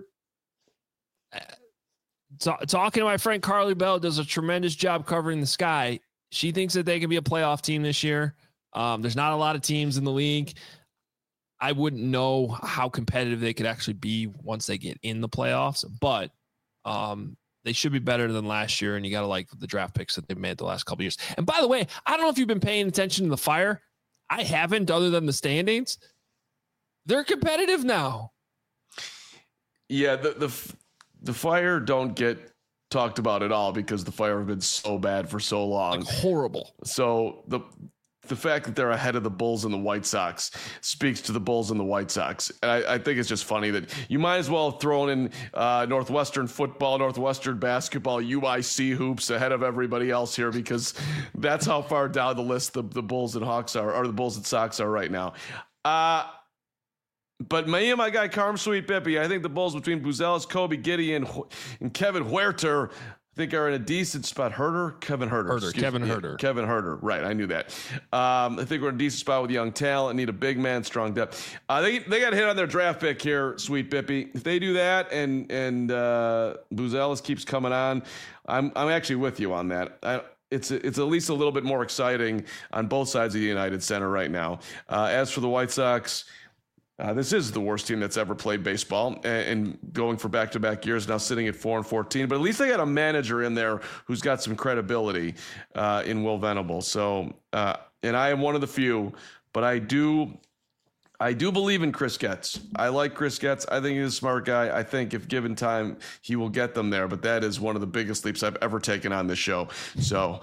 talking to my friend Carly Bell, does a tremendous job covering the Sky. She thinks that they can be a playoff team this year. There's not a lot of teams in the league. I wouldn't know how competitive they could actually be once they get in the playoffs, but they should be better than last year, and you got to like the draft picks that they've made the last couple of years. And by the way, I don't know if you've been paying attention to the Fire. I haven't, other than the standings. They're competitive now. Yeah, the Fire don't get talked about at all because the Fire have been so bad for so long. Like horrible. So the fact that they're ahead of the Bulls and the White Sox speaks to the Bulls and the White Sox. And I think it's just funny that you might as well have thrown in Northwestern football, Northwestern basketball, UIC hoops ahead of everybody else here because that's how far down the list the Bulls and Hawks are, or the Bulls and Sox are right now. But me and my guy Carm Sweet Bippy, I think the Bulls between Buzelis, Kobe Gideon, and Kevin Huerter think are in a decent spot. Kevin Huerter. Right. I knew that. I think we're in a decent spot with young talent, need a big man, strong depth. They got to hit on their draft pick here, Sweet Bippy. If they do that and Buzelis keeps coming on, I'm actually with you on that. It's at least a little bit more exciting on both sides of the United Center right now. As for the White Sox, this is the worst team that's ever played baseball and going for back-to-back years, now sitting at 4-14. But at least they got a manager in there who's got some credibility in Will Venable. So, and I am one of the few, but I do believe in Chris Getz. I like Chris Getz. I think he's a smart guy. I think if given time, he will get them there. But that is one of the biggest leaps I've ever taken on this show. So,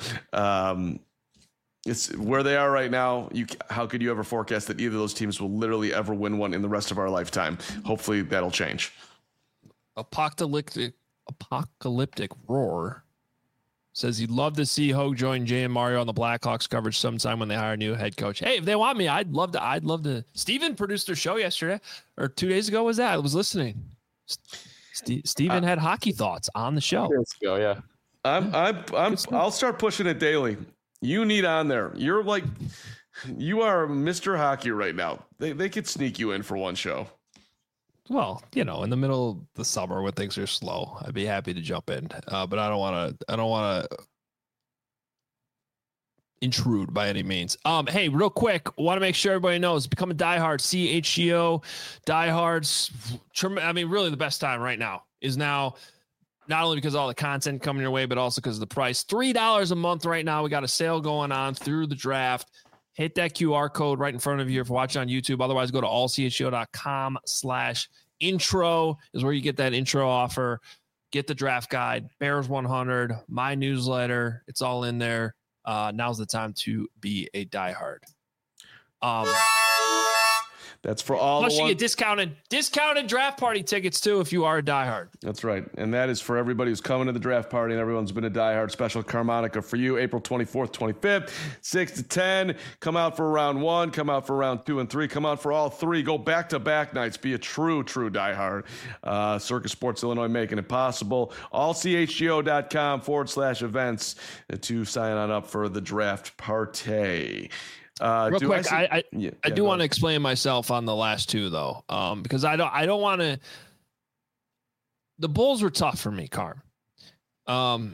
it's where they are right now. How could you ever forecast that either of those teams will literally ever win one in the rest of our lifetime? Hopefully that'll change. Apocalyptic roar. says he'd love to see Hogue join Jay and Mario on the Blackhawks coverage sometime when they hire a new head coach. Hey, if they want me, I'd love to. Steven produced their show yesterday or 2 days ago. Was that? I was listening. Steven had hockey thoughts on the show. Yeah. I'll start pushing it daily. You need on there. You are Mr. Hockey right now. They could sneak you in for one show. Well, in the middle of the summer when things are slow, I'd be happy to jump in. But I don't want to intrude by any means. Hey, real quick, want to make sure everybody knows, become a diehard. CHGO diehards. I mean, really the best time right now is now, not only because of all the content coming your way, but also because of the price. $3 a month right now. We got a sale going on through the draft. Hit that QR code right in front of you if you're watching on YouTube. Otherwise, go to allchgo.com/intro is where you get that intro offer. Get the draft guide, Bears 100, my newsletter. It's all in there. Now's the time to be a diehard. That's for all. Plus, you get discounted draft party tickets too if you are a diehard. That's right, and that is for everybody who's coming to the draft party and everyone's been a diehard. Special Carmonica for you, April 24th, 25th, 6 to 10. Come out for round 1. Come out for round 2 and 3. Come out for all 3. Go back-to-back nights. Be a true diehard. Circus Sports Illinois making it possible. allchgo.com/events to sign on up for the draft party. Real quick, I do want to explain myself on the last 2 though, because I don't want to. The Bulls were tough for me, Carm. I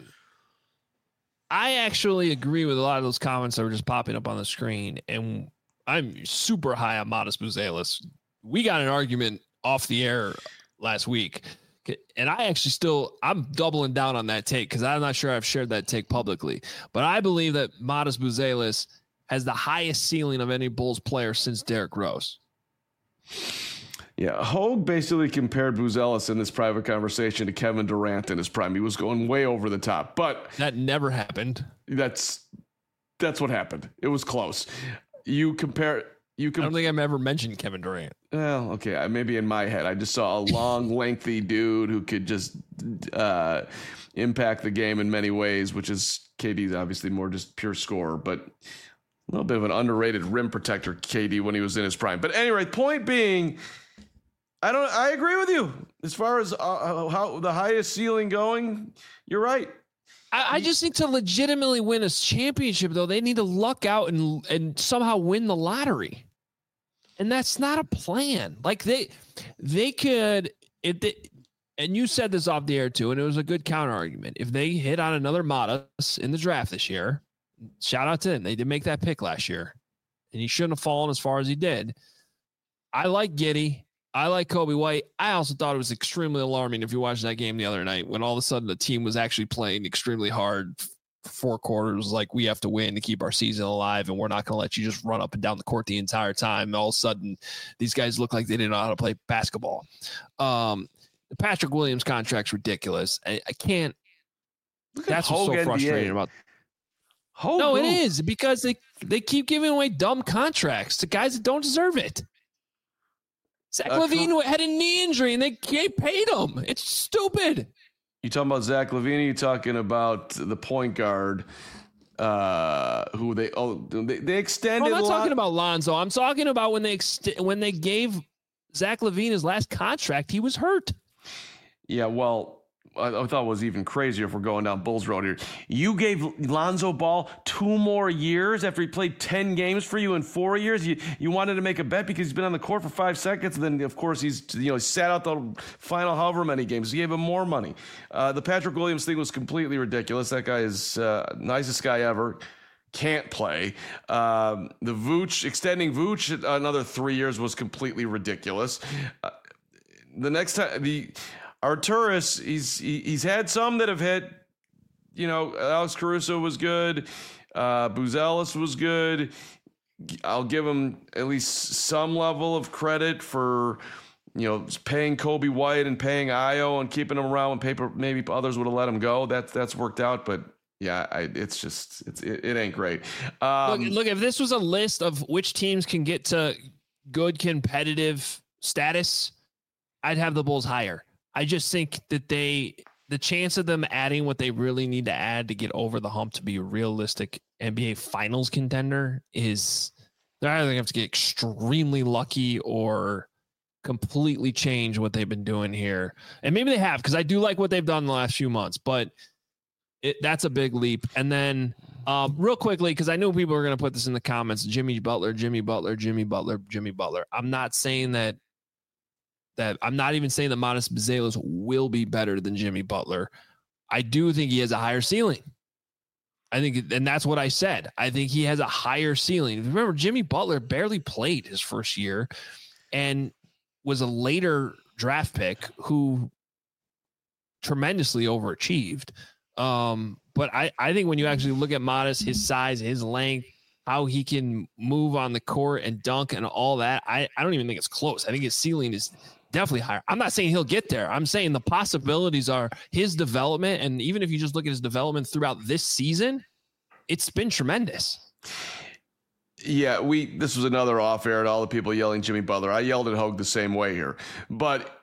actually agree with a lot of those comments that were just popping up on the screen, and I'm super high on Modest Buzelis. We got an argument off the air last week, and I'm doubling down on that take because I'm not sure I've shared that take publicly, but I believe that Modest Buzelis has the highest ceiling of any Bulls player since Derrick Rose. Yeah, Hogue basically compared Buzelis in this private conversation to Kevin Durant in his prime. He was going way over the top, but that never happened. That's what happened. It was close. I don't think I've ever mentioned Kevin Durant. Well, okay, maybe in my head. I just saw a long, lengthy dude who could just impact the game in many ways, which is KD's obviously more just pure scorer, but a little bit of an underrated rim protector, KD, when he was in his prime. But anyway, point being, I agree with you as far as how the highest ceiling going. You're right. I just think to legitimately win a championship, though, they need to luck out and somehow win the lottery. And that's not a plan. Like they could, and you said this off the air too, and it was a good counter argument. If they hit on another Modest in the draft this year, shout out to him. They did make that pick last year, and he shouldn't have fallen as far as he did. I like Giddey. I like Kobe White. I also thought it was extremely alarming if you watched that game the other night when all of a sudden the team was actually playing extremely hard. 4 quarters, like we have to win to keep our season alive, and we're not going to let you just run up and down the court the entire time. And all of a sudden, these guys look like they didn't know how to play basketball. The Patrick Williams contract's ridiculous. I can't. That's what's so frustrating about. No, it is because they keep giving away dumb contracts to guys that don't deserve it. Zach LaVine had a knee injury and they paid him. It's stupid. You talking about Zach LaVine? You talking about the point guard who they extended? I'm not talking about Lonzo. I'm talking about when they gave Zach LaVine his last contract, he was hurt. Yeah, well, I thought it was even crazier if we're going down Bulls Road here. You gave Lonzo Ball 2 more years after he played 10 games for you in 4 years. You wanted to make a bet because he's been on the court for 5 seconds. And then, of course, he sat out the final however many games. You gave him more money. The Patrick Williams thing was completely ridiculous. That guy is nicest guy ever. Can't play. The Vooch, extending Vooch another 3 years was completely ridiculous. The next time, Arturas, he's had some that have hit. Alex Caruso was good. Buzelis was good. I'll give him at least some level of credit for, paying Kobe White and paying Ayo and keeping him around when maybe others would have let him go. That's worked out, but yeah, it ain't great. Look, if this was a list of which teams can get to good competitive status, I'd have the Bulls higher. I just think that they the chance of them adding what they really need to add to get over the hump to be a realistic NBA Finals contender is they're either going to have to get extremely lucky or completely change what they've been doing here. And maybe they have, because I do like what they've done in the last few months, but that's a big leap. And then real quickly, because I know people are going to put this in the comments, Jimmy Butler. I'm not saying that I'm not even saying that Matas Buzelis will be better than Jimmy Butler. I do think he has a higher ceiling. I think, and that's what I said. I think he has a higher ceiling. Remember, Jimmy Butler barely played his first year and was a later draft pick who tremendously overachieved. But I think when you actually look at Matas, his size, his length, how he can move on the court and dunk and all that, I don't even think it's close. I think his ceiling is definitely higher. I'm not saying he'll get there. I'm saying the possibilities are his development. And even if you just look at his development throughout this season, it's been tremendous. Yeah, this was another off air to all the people yelling Jimmy Butler. I yelled at Hogue the same way here. But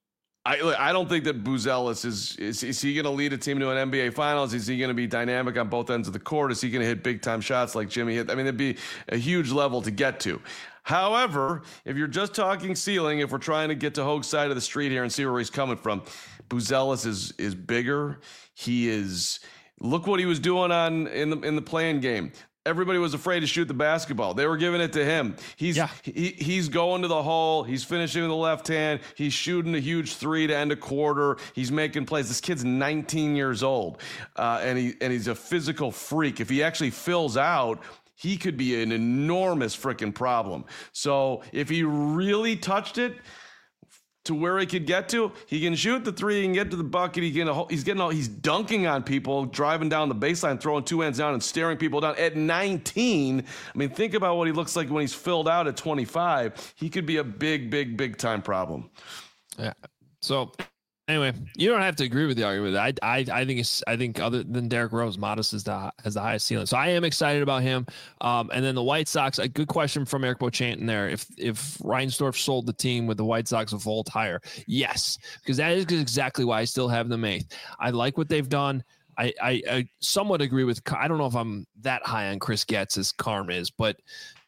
I don't think that Buzelis is he going to lead a team to an NBA Finals? Is he going to be dynamic on both ends of the court? Is he going to hit big-time shots like Jimmy hit? I mean, it'd be a huge level to get to. However, if you're just talking ceiling, if we're trying to get to Hogue's side of the street here and see where he's coming from, Buzelis is bigger. He is – look what he was doing in the play-in game. Everybody was afraid to shoot the basketball. They were giving it to him. He's going to the hole. He's finishing with the left hand. He's shooting a huge three to end a quarter. He's making plays. This kid's 19 years old, and he's a physical freak. If he actually fills out, he could be an enormous freaking problem. So if he really touched it to where he could get to, he can shoot the three, he can get to the bucket, he's dunking on people, driving down the baseline, throwing two hands down and staring people down at 19. I mean, think about what he looks like when he's filled out at 25. He could be a big time problem. Yeah. So anyway, you don't have to agree with the argument. I think other than Derrick Rose, Matas has the highest ceiling. So I am excited about him. And then the White Sox, a good question from Eric Beauchamp in there. If Reinsdorf sold the team, would the White Sox have vault higher? Yes, because that is exactly why I still have them 8th. I like what they've done. I somewhat agree with. I don't know if I'm that high on Chris Getz as Carm is, but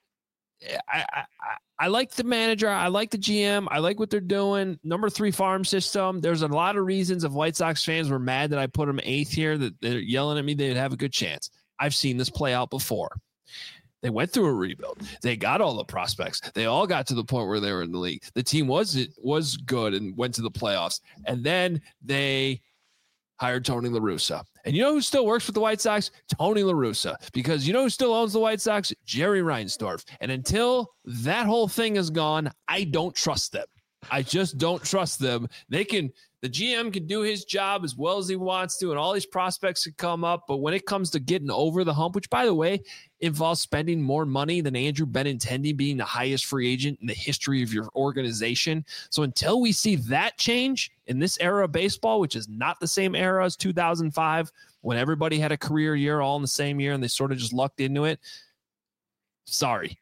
I like the manager. I like the GM. I like what they're doing. Number 3 farm system. There's a lot of reasons if White Sox fans were mad that I put them 8th here, that they're yelling at me, they'd have a good chance. I've seen this play out before. They went through a rebuild. They got all the prospects. They all got to the point where they were in the league. The team was good and went to the playoffs. And then they hired Tony La Russa. And you know who still works with the White Sox? Tony La Russa. Because you know who still owns the White Sox? Jerry Reinsdorf. And until that whole thing is gone, I don't trust them. I just don't trust them. The GM can do his job as well as he wants to, and all these prospects can come up. But when it comes to getting over the hump, which, by the way, involves spending more money than Andrew Benintendi being the highest free agent in the history of your organization. So until we see that change in this era of baseball, which is not the same era as 2005, when everybody had a career year all in the same year and they sort of just lucked into it, sorry.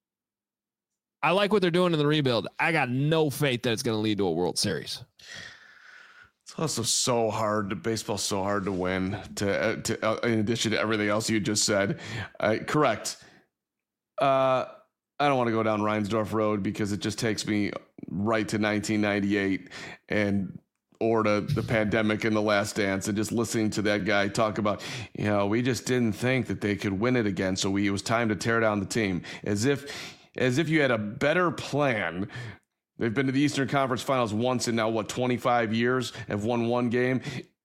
I like what they're doing in the rebuild. I got no faith that it's going to lead to a World Series. It's also so hard. Baseball's so hard to win. In addition to everything else you just said, correct. I don't want to go down Reinsdorf Road because it just takes me right to 1998 or to the pandemic and The Last Dance, and just listening to that guy talk about, we just didn't think that they could win it again, so it was time to tear down the team, as if you had a better plan. They've been to the Eastern Conference Finals once in now, 25 years, have won one game.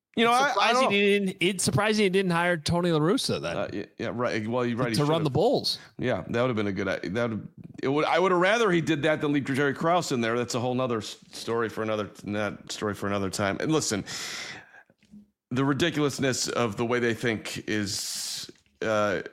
It's surprising he didn't hire Tony La Russa then. Yeah, right. Well, you're right. To run the Bulls. Yeah, that would have been a good. I would have rather he did that than leave Jerry Krause in there. That's a whole nother story for another time. And listen, the ridiculousness of the way they think is the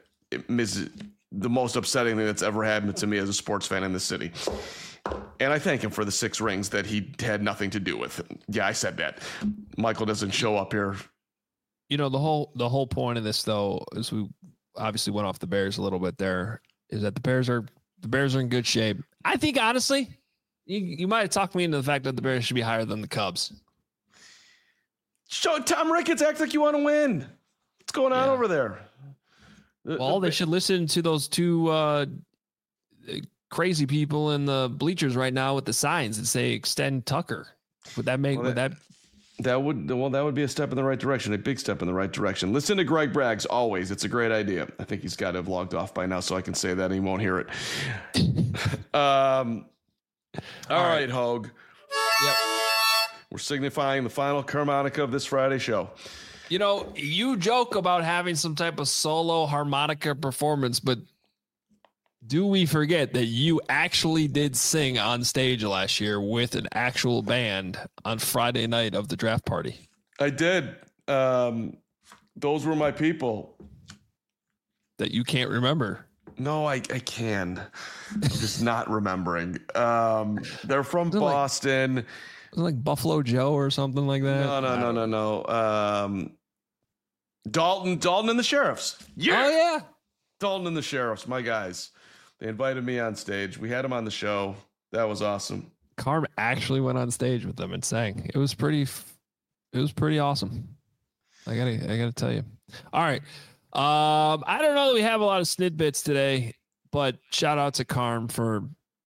most upsetting thing that's ever happened to me as a sports fan in this city. And I thank him for the 6 rings that he had nothing to do with. Yeah, I said that. Michael doesn't show up here. The whole point of this, though, is we obviously went off the Bears a little bit there, is that the Bears are in good shape. I think, honestly, you might have talked me into the fact that the Bears should be higher than the Cubs. Tom Ricketts acts like you want to win. What's going on over there? Well, they should listen to those two crazy people in the bleachers right now with the signs that say "Extend Tucker." Would that make that would be a step in the right direction, a big step in the right direction. Listen to Greg Braggs always. It's a great idea. I think he's got to have logged off by now, so I can say that and he won't hear it. All right, Hogue. Yep. We're signifying the final harmonica of this Friday show. You know, you joke about having some type of solo harmonica performance, but do we forget that you actually did sing on stage last year with an actual band on Friday night of the draft party? I did. Those were my people. That you can't remember? No, I can. I'm just not remembering. They're from Boston. Was it like Buffalo Joe or something like that? No. Dalton and the Sheriffs. Yeah. Oh, yeah. Dalton and the Sheriffs, my guys. They invited me on stage. We had them on the show. That was awesome. Carm actually went on stage with them and sang. It was pretty awesome. I gotta tell you. All right. I don't know that we have a lot of snidbits today, but shout out to Carm for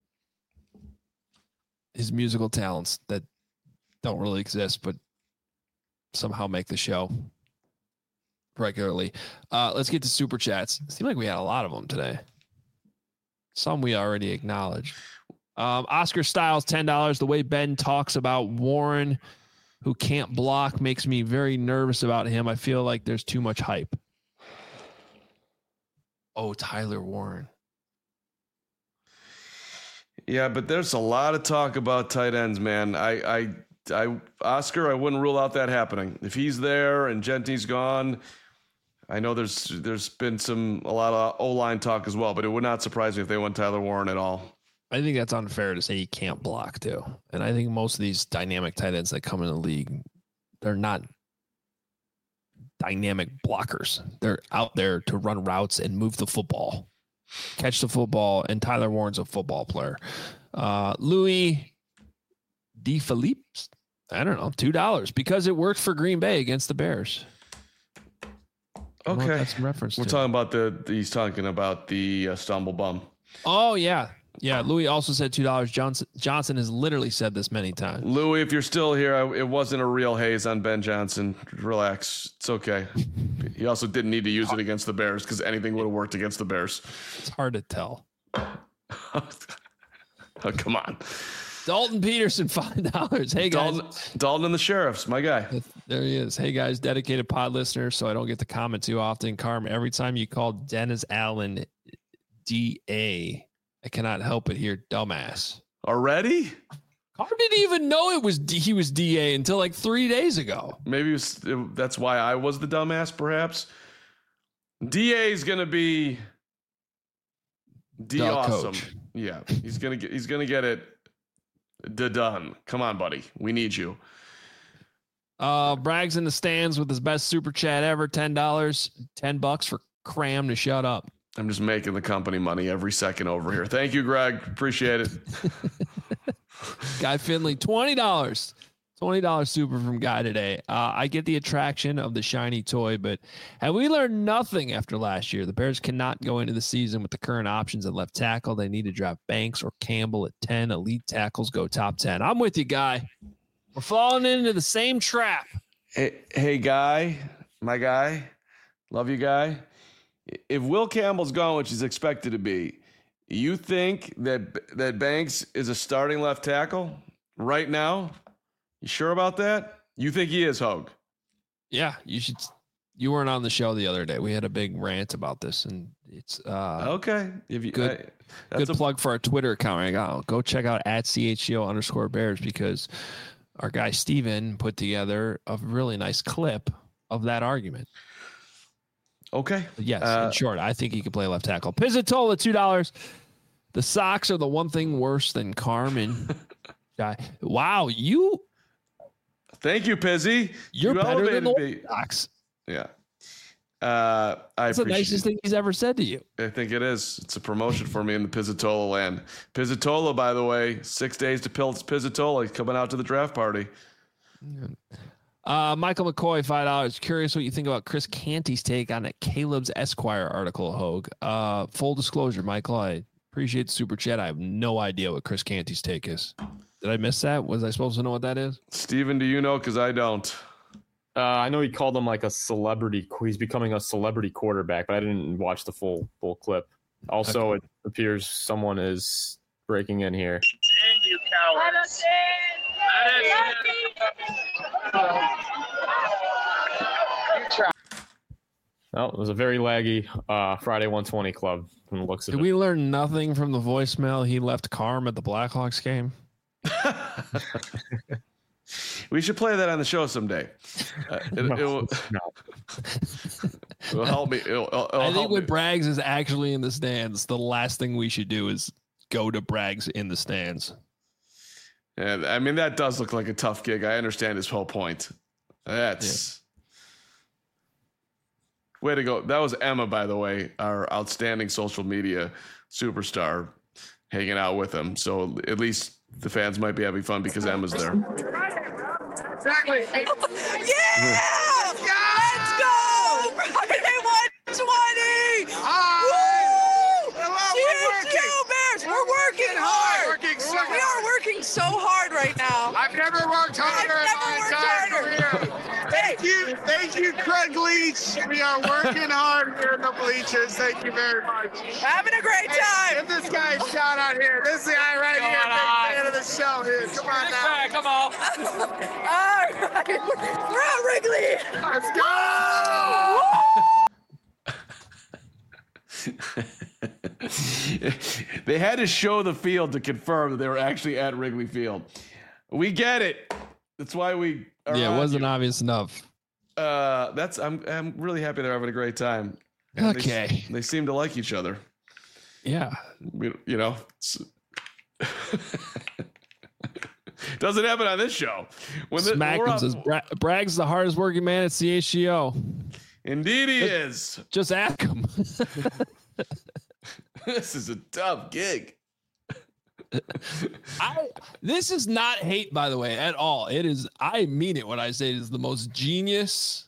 his musical talents that don't really exist, but somehow make the show regularly. Let's get to super chats. It seemed like we had a lot of them today. Some we already acknowledged. Oscar Styles, $10. The way Ben talks about Warren, who can't block, makes me very nervous about him. I feel like there's too much hype. Oh, Tyler Warren. Yeah, but there's a lot of talk about tight ends, man. Oscar, I wouldn't rule out that happening. If he's there and Genty's gone, I know there's been a lot of O-line talk as well, but it would not surprise me if they went Tyler Warren at all. I think that's unfair to say he can't block too. And I think most of these dynamic tight ends that come in the league, they're not dynamic blockers. They're out there to run routes and move the football, catch the football. And Tyler Warren's a football player. Louis DeFilippe, I don't know, $2 because it worked for Green Bay against the Bears. Okay. That's reference. We're talking about he's talking about the stumble bum. Oh yeah. Yeah. Louis also said $2. Johnson has literally said this many times. Louis, if you're still here, it wasn't a real haze on Ben Johnson. Relax. It's okay. He also didn't need to use it against the Bears because anything would have worked against the Bears. It's hard to tell. Oh, come on. Dalton Peterson, $5. Hey, guys. Dalton and the Sheriffs, my guy. There he is. Hey, guys, dedicated pod listener, so I don't get to comment too often. Carm, every time you call Dennis Allen DA, I cannot help but hear dumbass. Already? Carm didn't even know he was DA until like 3 days ago. Maybe that's why I was the dumbass, perhaps. DA is going to be awesome. Coach. Yeah, he's gonna get it. Done. Come on, buddy. We need you. Bragg's in the stands with his best super chat ever. $10. $10 for Cram to shut up. I'm just making the company money every second over here. Thank you, Greg. Appreciate it. Guy Finley, $20. $20 super from Guy today. I get the attraction of the shiny toy, but have we learned nothing after last year? The Bears cannot go into the season with the current options at left tackle. They need to draft Banks or Campbell at 10. Elite tackles go top 10. I'm with you, Guy. We're falling into the same trap. Hey, Guy, my guy, love you, Guy. If Will Campbell's gone, which he's expected to be, you think that Banks is a starting left tackle right now? You sure about that? You think he is, Hogue? Yeah, you should. You weren't on the show the other day. We had a big rant about this, and it's okay. Good plug for our Twitter account. Go check out @CHGO_Bears because our guy Steven put together a really nice clip of that argument. Okay. But yes, in short, I think he could play left tackle. Pizzatola, $2. The Sox are the one thing worse than Carmen. Wow, you. Thank you, Pizzy. You're better than the Sox. Yeah. That's the nicest thing he's ever said to you. I think it is. It's a promotion for me in the Pizzatola land. Pizzatola, by the way, 6 days to Pizzatola. He's coming out to the draft party. Michael McCoy, $5. Curious what you think about Chris Canty's take on that Caleb's Esquire article, Hogue. Full disclosure, Michael, I appreciate the super chat. I have no idea what Chris Canty's take is. Did I miss that? Was I supposed to know what that is? Steven, do you know? Because I don't. I know he called him like a celebrity. He's becoming a celebrity quarterback, but I didn't watch the full clip. Also, It appears someone is breaking in here. You cowards. Well, it was a very laggy Friday 120 club from the looks of it. Did we learn nothing from the voicemail he left Carm at the Blackhawks game? We should play that on the show someday. It'll help me. I think when Braggs is actually in the stands, the last thing we should do is go to Braggs in the stands. Yeah, I mean, that does look like a tough gig. I understand his whole point. That's way to go. That was Emma, by the way, our outstanding social media superstar, hanging out with him. So at least the fans might be having fun because Emma's there. Exactly. Yeah! Let's go! Friday 120! CSU Bears, we're working hard. We are working so hard right now. I've never worked harder in my entire career. Thank you, Craig Leach. We are working hard here in the bleachers. Thank you very much. Having a great time. Give this guy a shout out here. This is the guy right here, big fan of the show here. Come on now. Come on. All right. We're at Wrigley. Let's go. They had to show the field to confirm that they were actually at Wrigley Field. We get it. That's why we are. Yeah, it wasn't obvious enough. I'm really happy they're having a great time. Okay. They seem to like each other. Yeah. You know, doesn't happen on this show. Smackman says Bragg's the hardest working man at CHGO. Indeed he is. Just ask him. This is a tough gig. This is not hate, by the way, at all. It is. I mean it when I say it is the most genius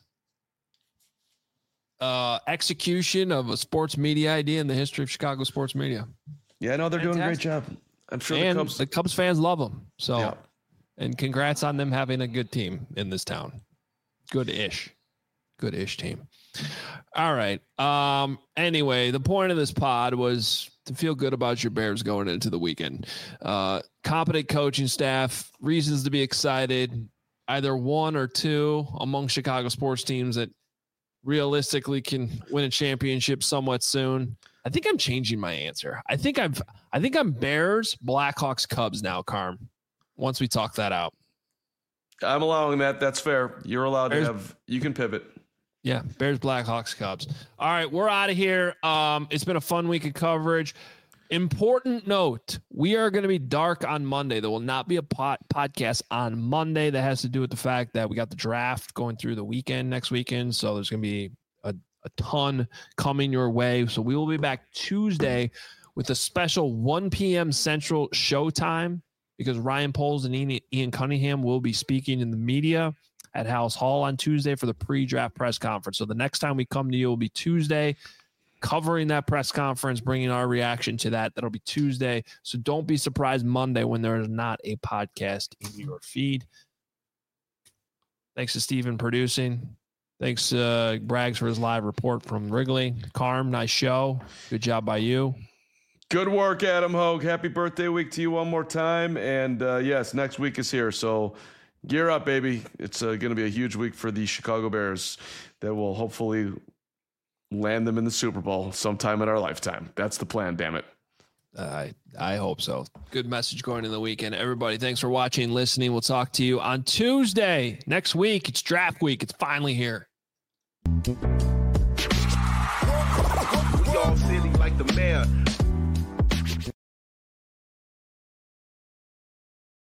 execution of a sports media idea in the history of Chicago sports media. Yeah, no, they're doing a great job. I'm sure the Cubs fans love them. So, yeah. And congrats on them having a good team in this town. Good-ish team. All right. Anyway, the point of this pod was to feel good about your Bears going into the weekend. Competent coaching staff, reasons to be excited. Either one or two among Chicago sports teams that realistically can win a championship somewhat soon. I think I'm changing my answer. I think I'm Bears, Blackhawks, Cubs now, Carm. Once we talk that out. I'm allowing that. That's fair. You're allowed to have, you can pivot. Yeah, Bears, Blackhawks, Cubs. All right, we're out of here. It's been a fun week of coverage. Important note, we are going to be dark on Monday. There will not be a podcast on Monday. That has to do with the fact that we got the draft going through the weekend next weekend. So there's going to be a ton coming your way. So we will be back Tuesday with a special 1 p.m. Central showtime because Ryan Poles and Ian Cunningham will be speaking in the media at House Hall on Tuesday for the pre-draft press conference. So the next time we come to you will be Tuesday, covering that press conference, bringing our reaction to that. That'll be Tuesday. So don't be surprised Monday when there is not a podcast in your feed. Thanks to Steven producing. Thanks Braggs for his live report from Wrigley. Carm, nice show. Good job by you. Good work, Adam Hogue. Happy birthday week to you one more time. And yes, next week is here. So gear up, baby. It's going to be a huge week for the Chicago Bears that will hopefully land them in the Super Bowl sometime in our lifetime. That's the plan, damn it. I hope so. Good message going in the weekend. Everybody, thanks for watching, listening. We'll talk to you on Tuesday next week. It's draft week. It's finally here.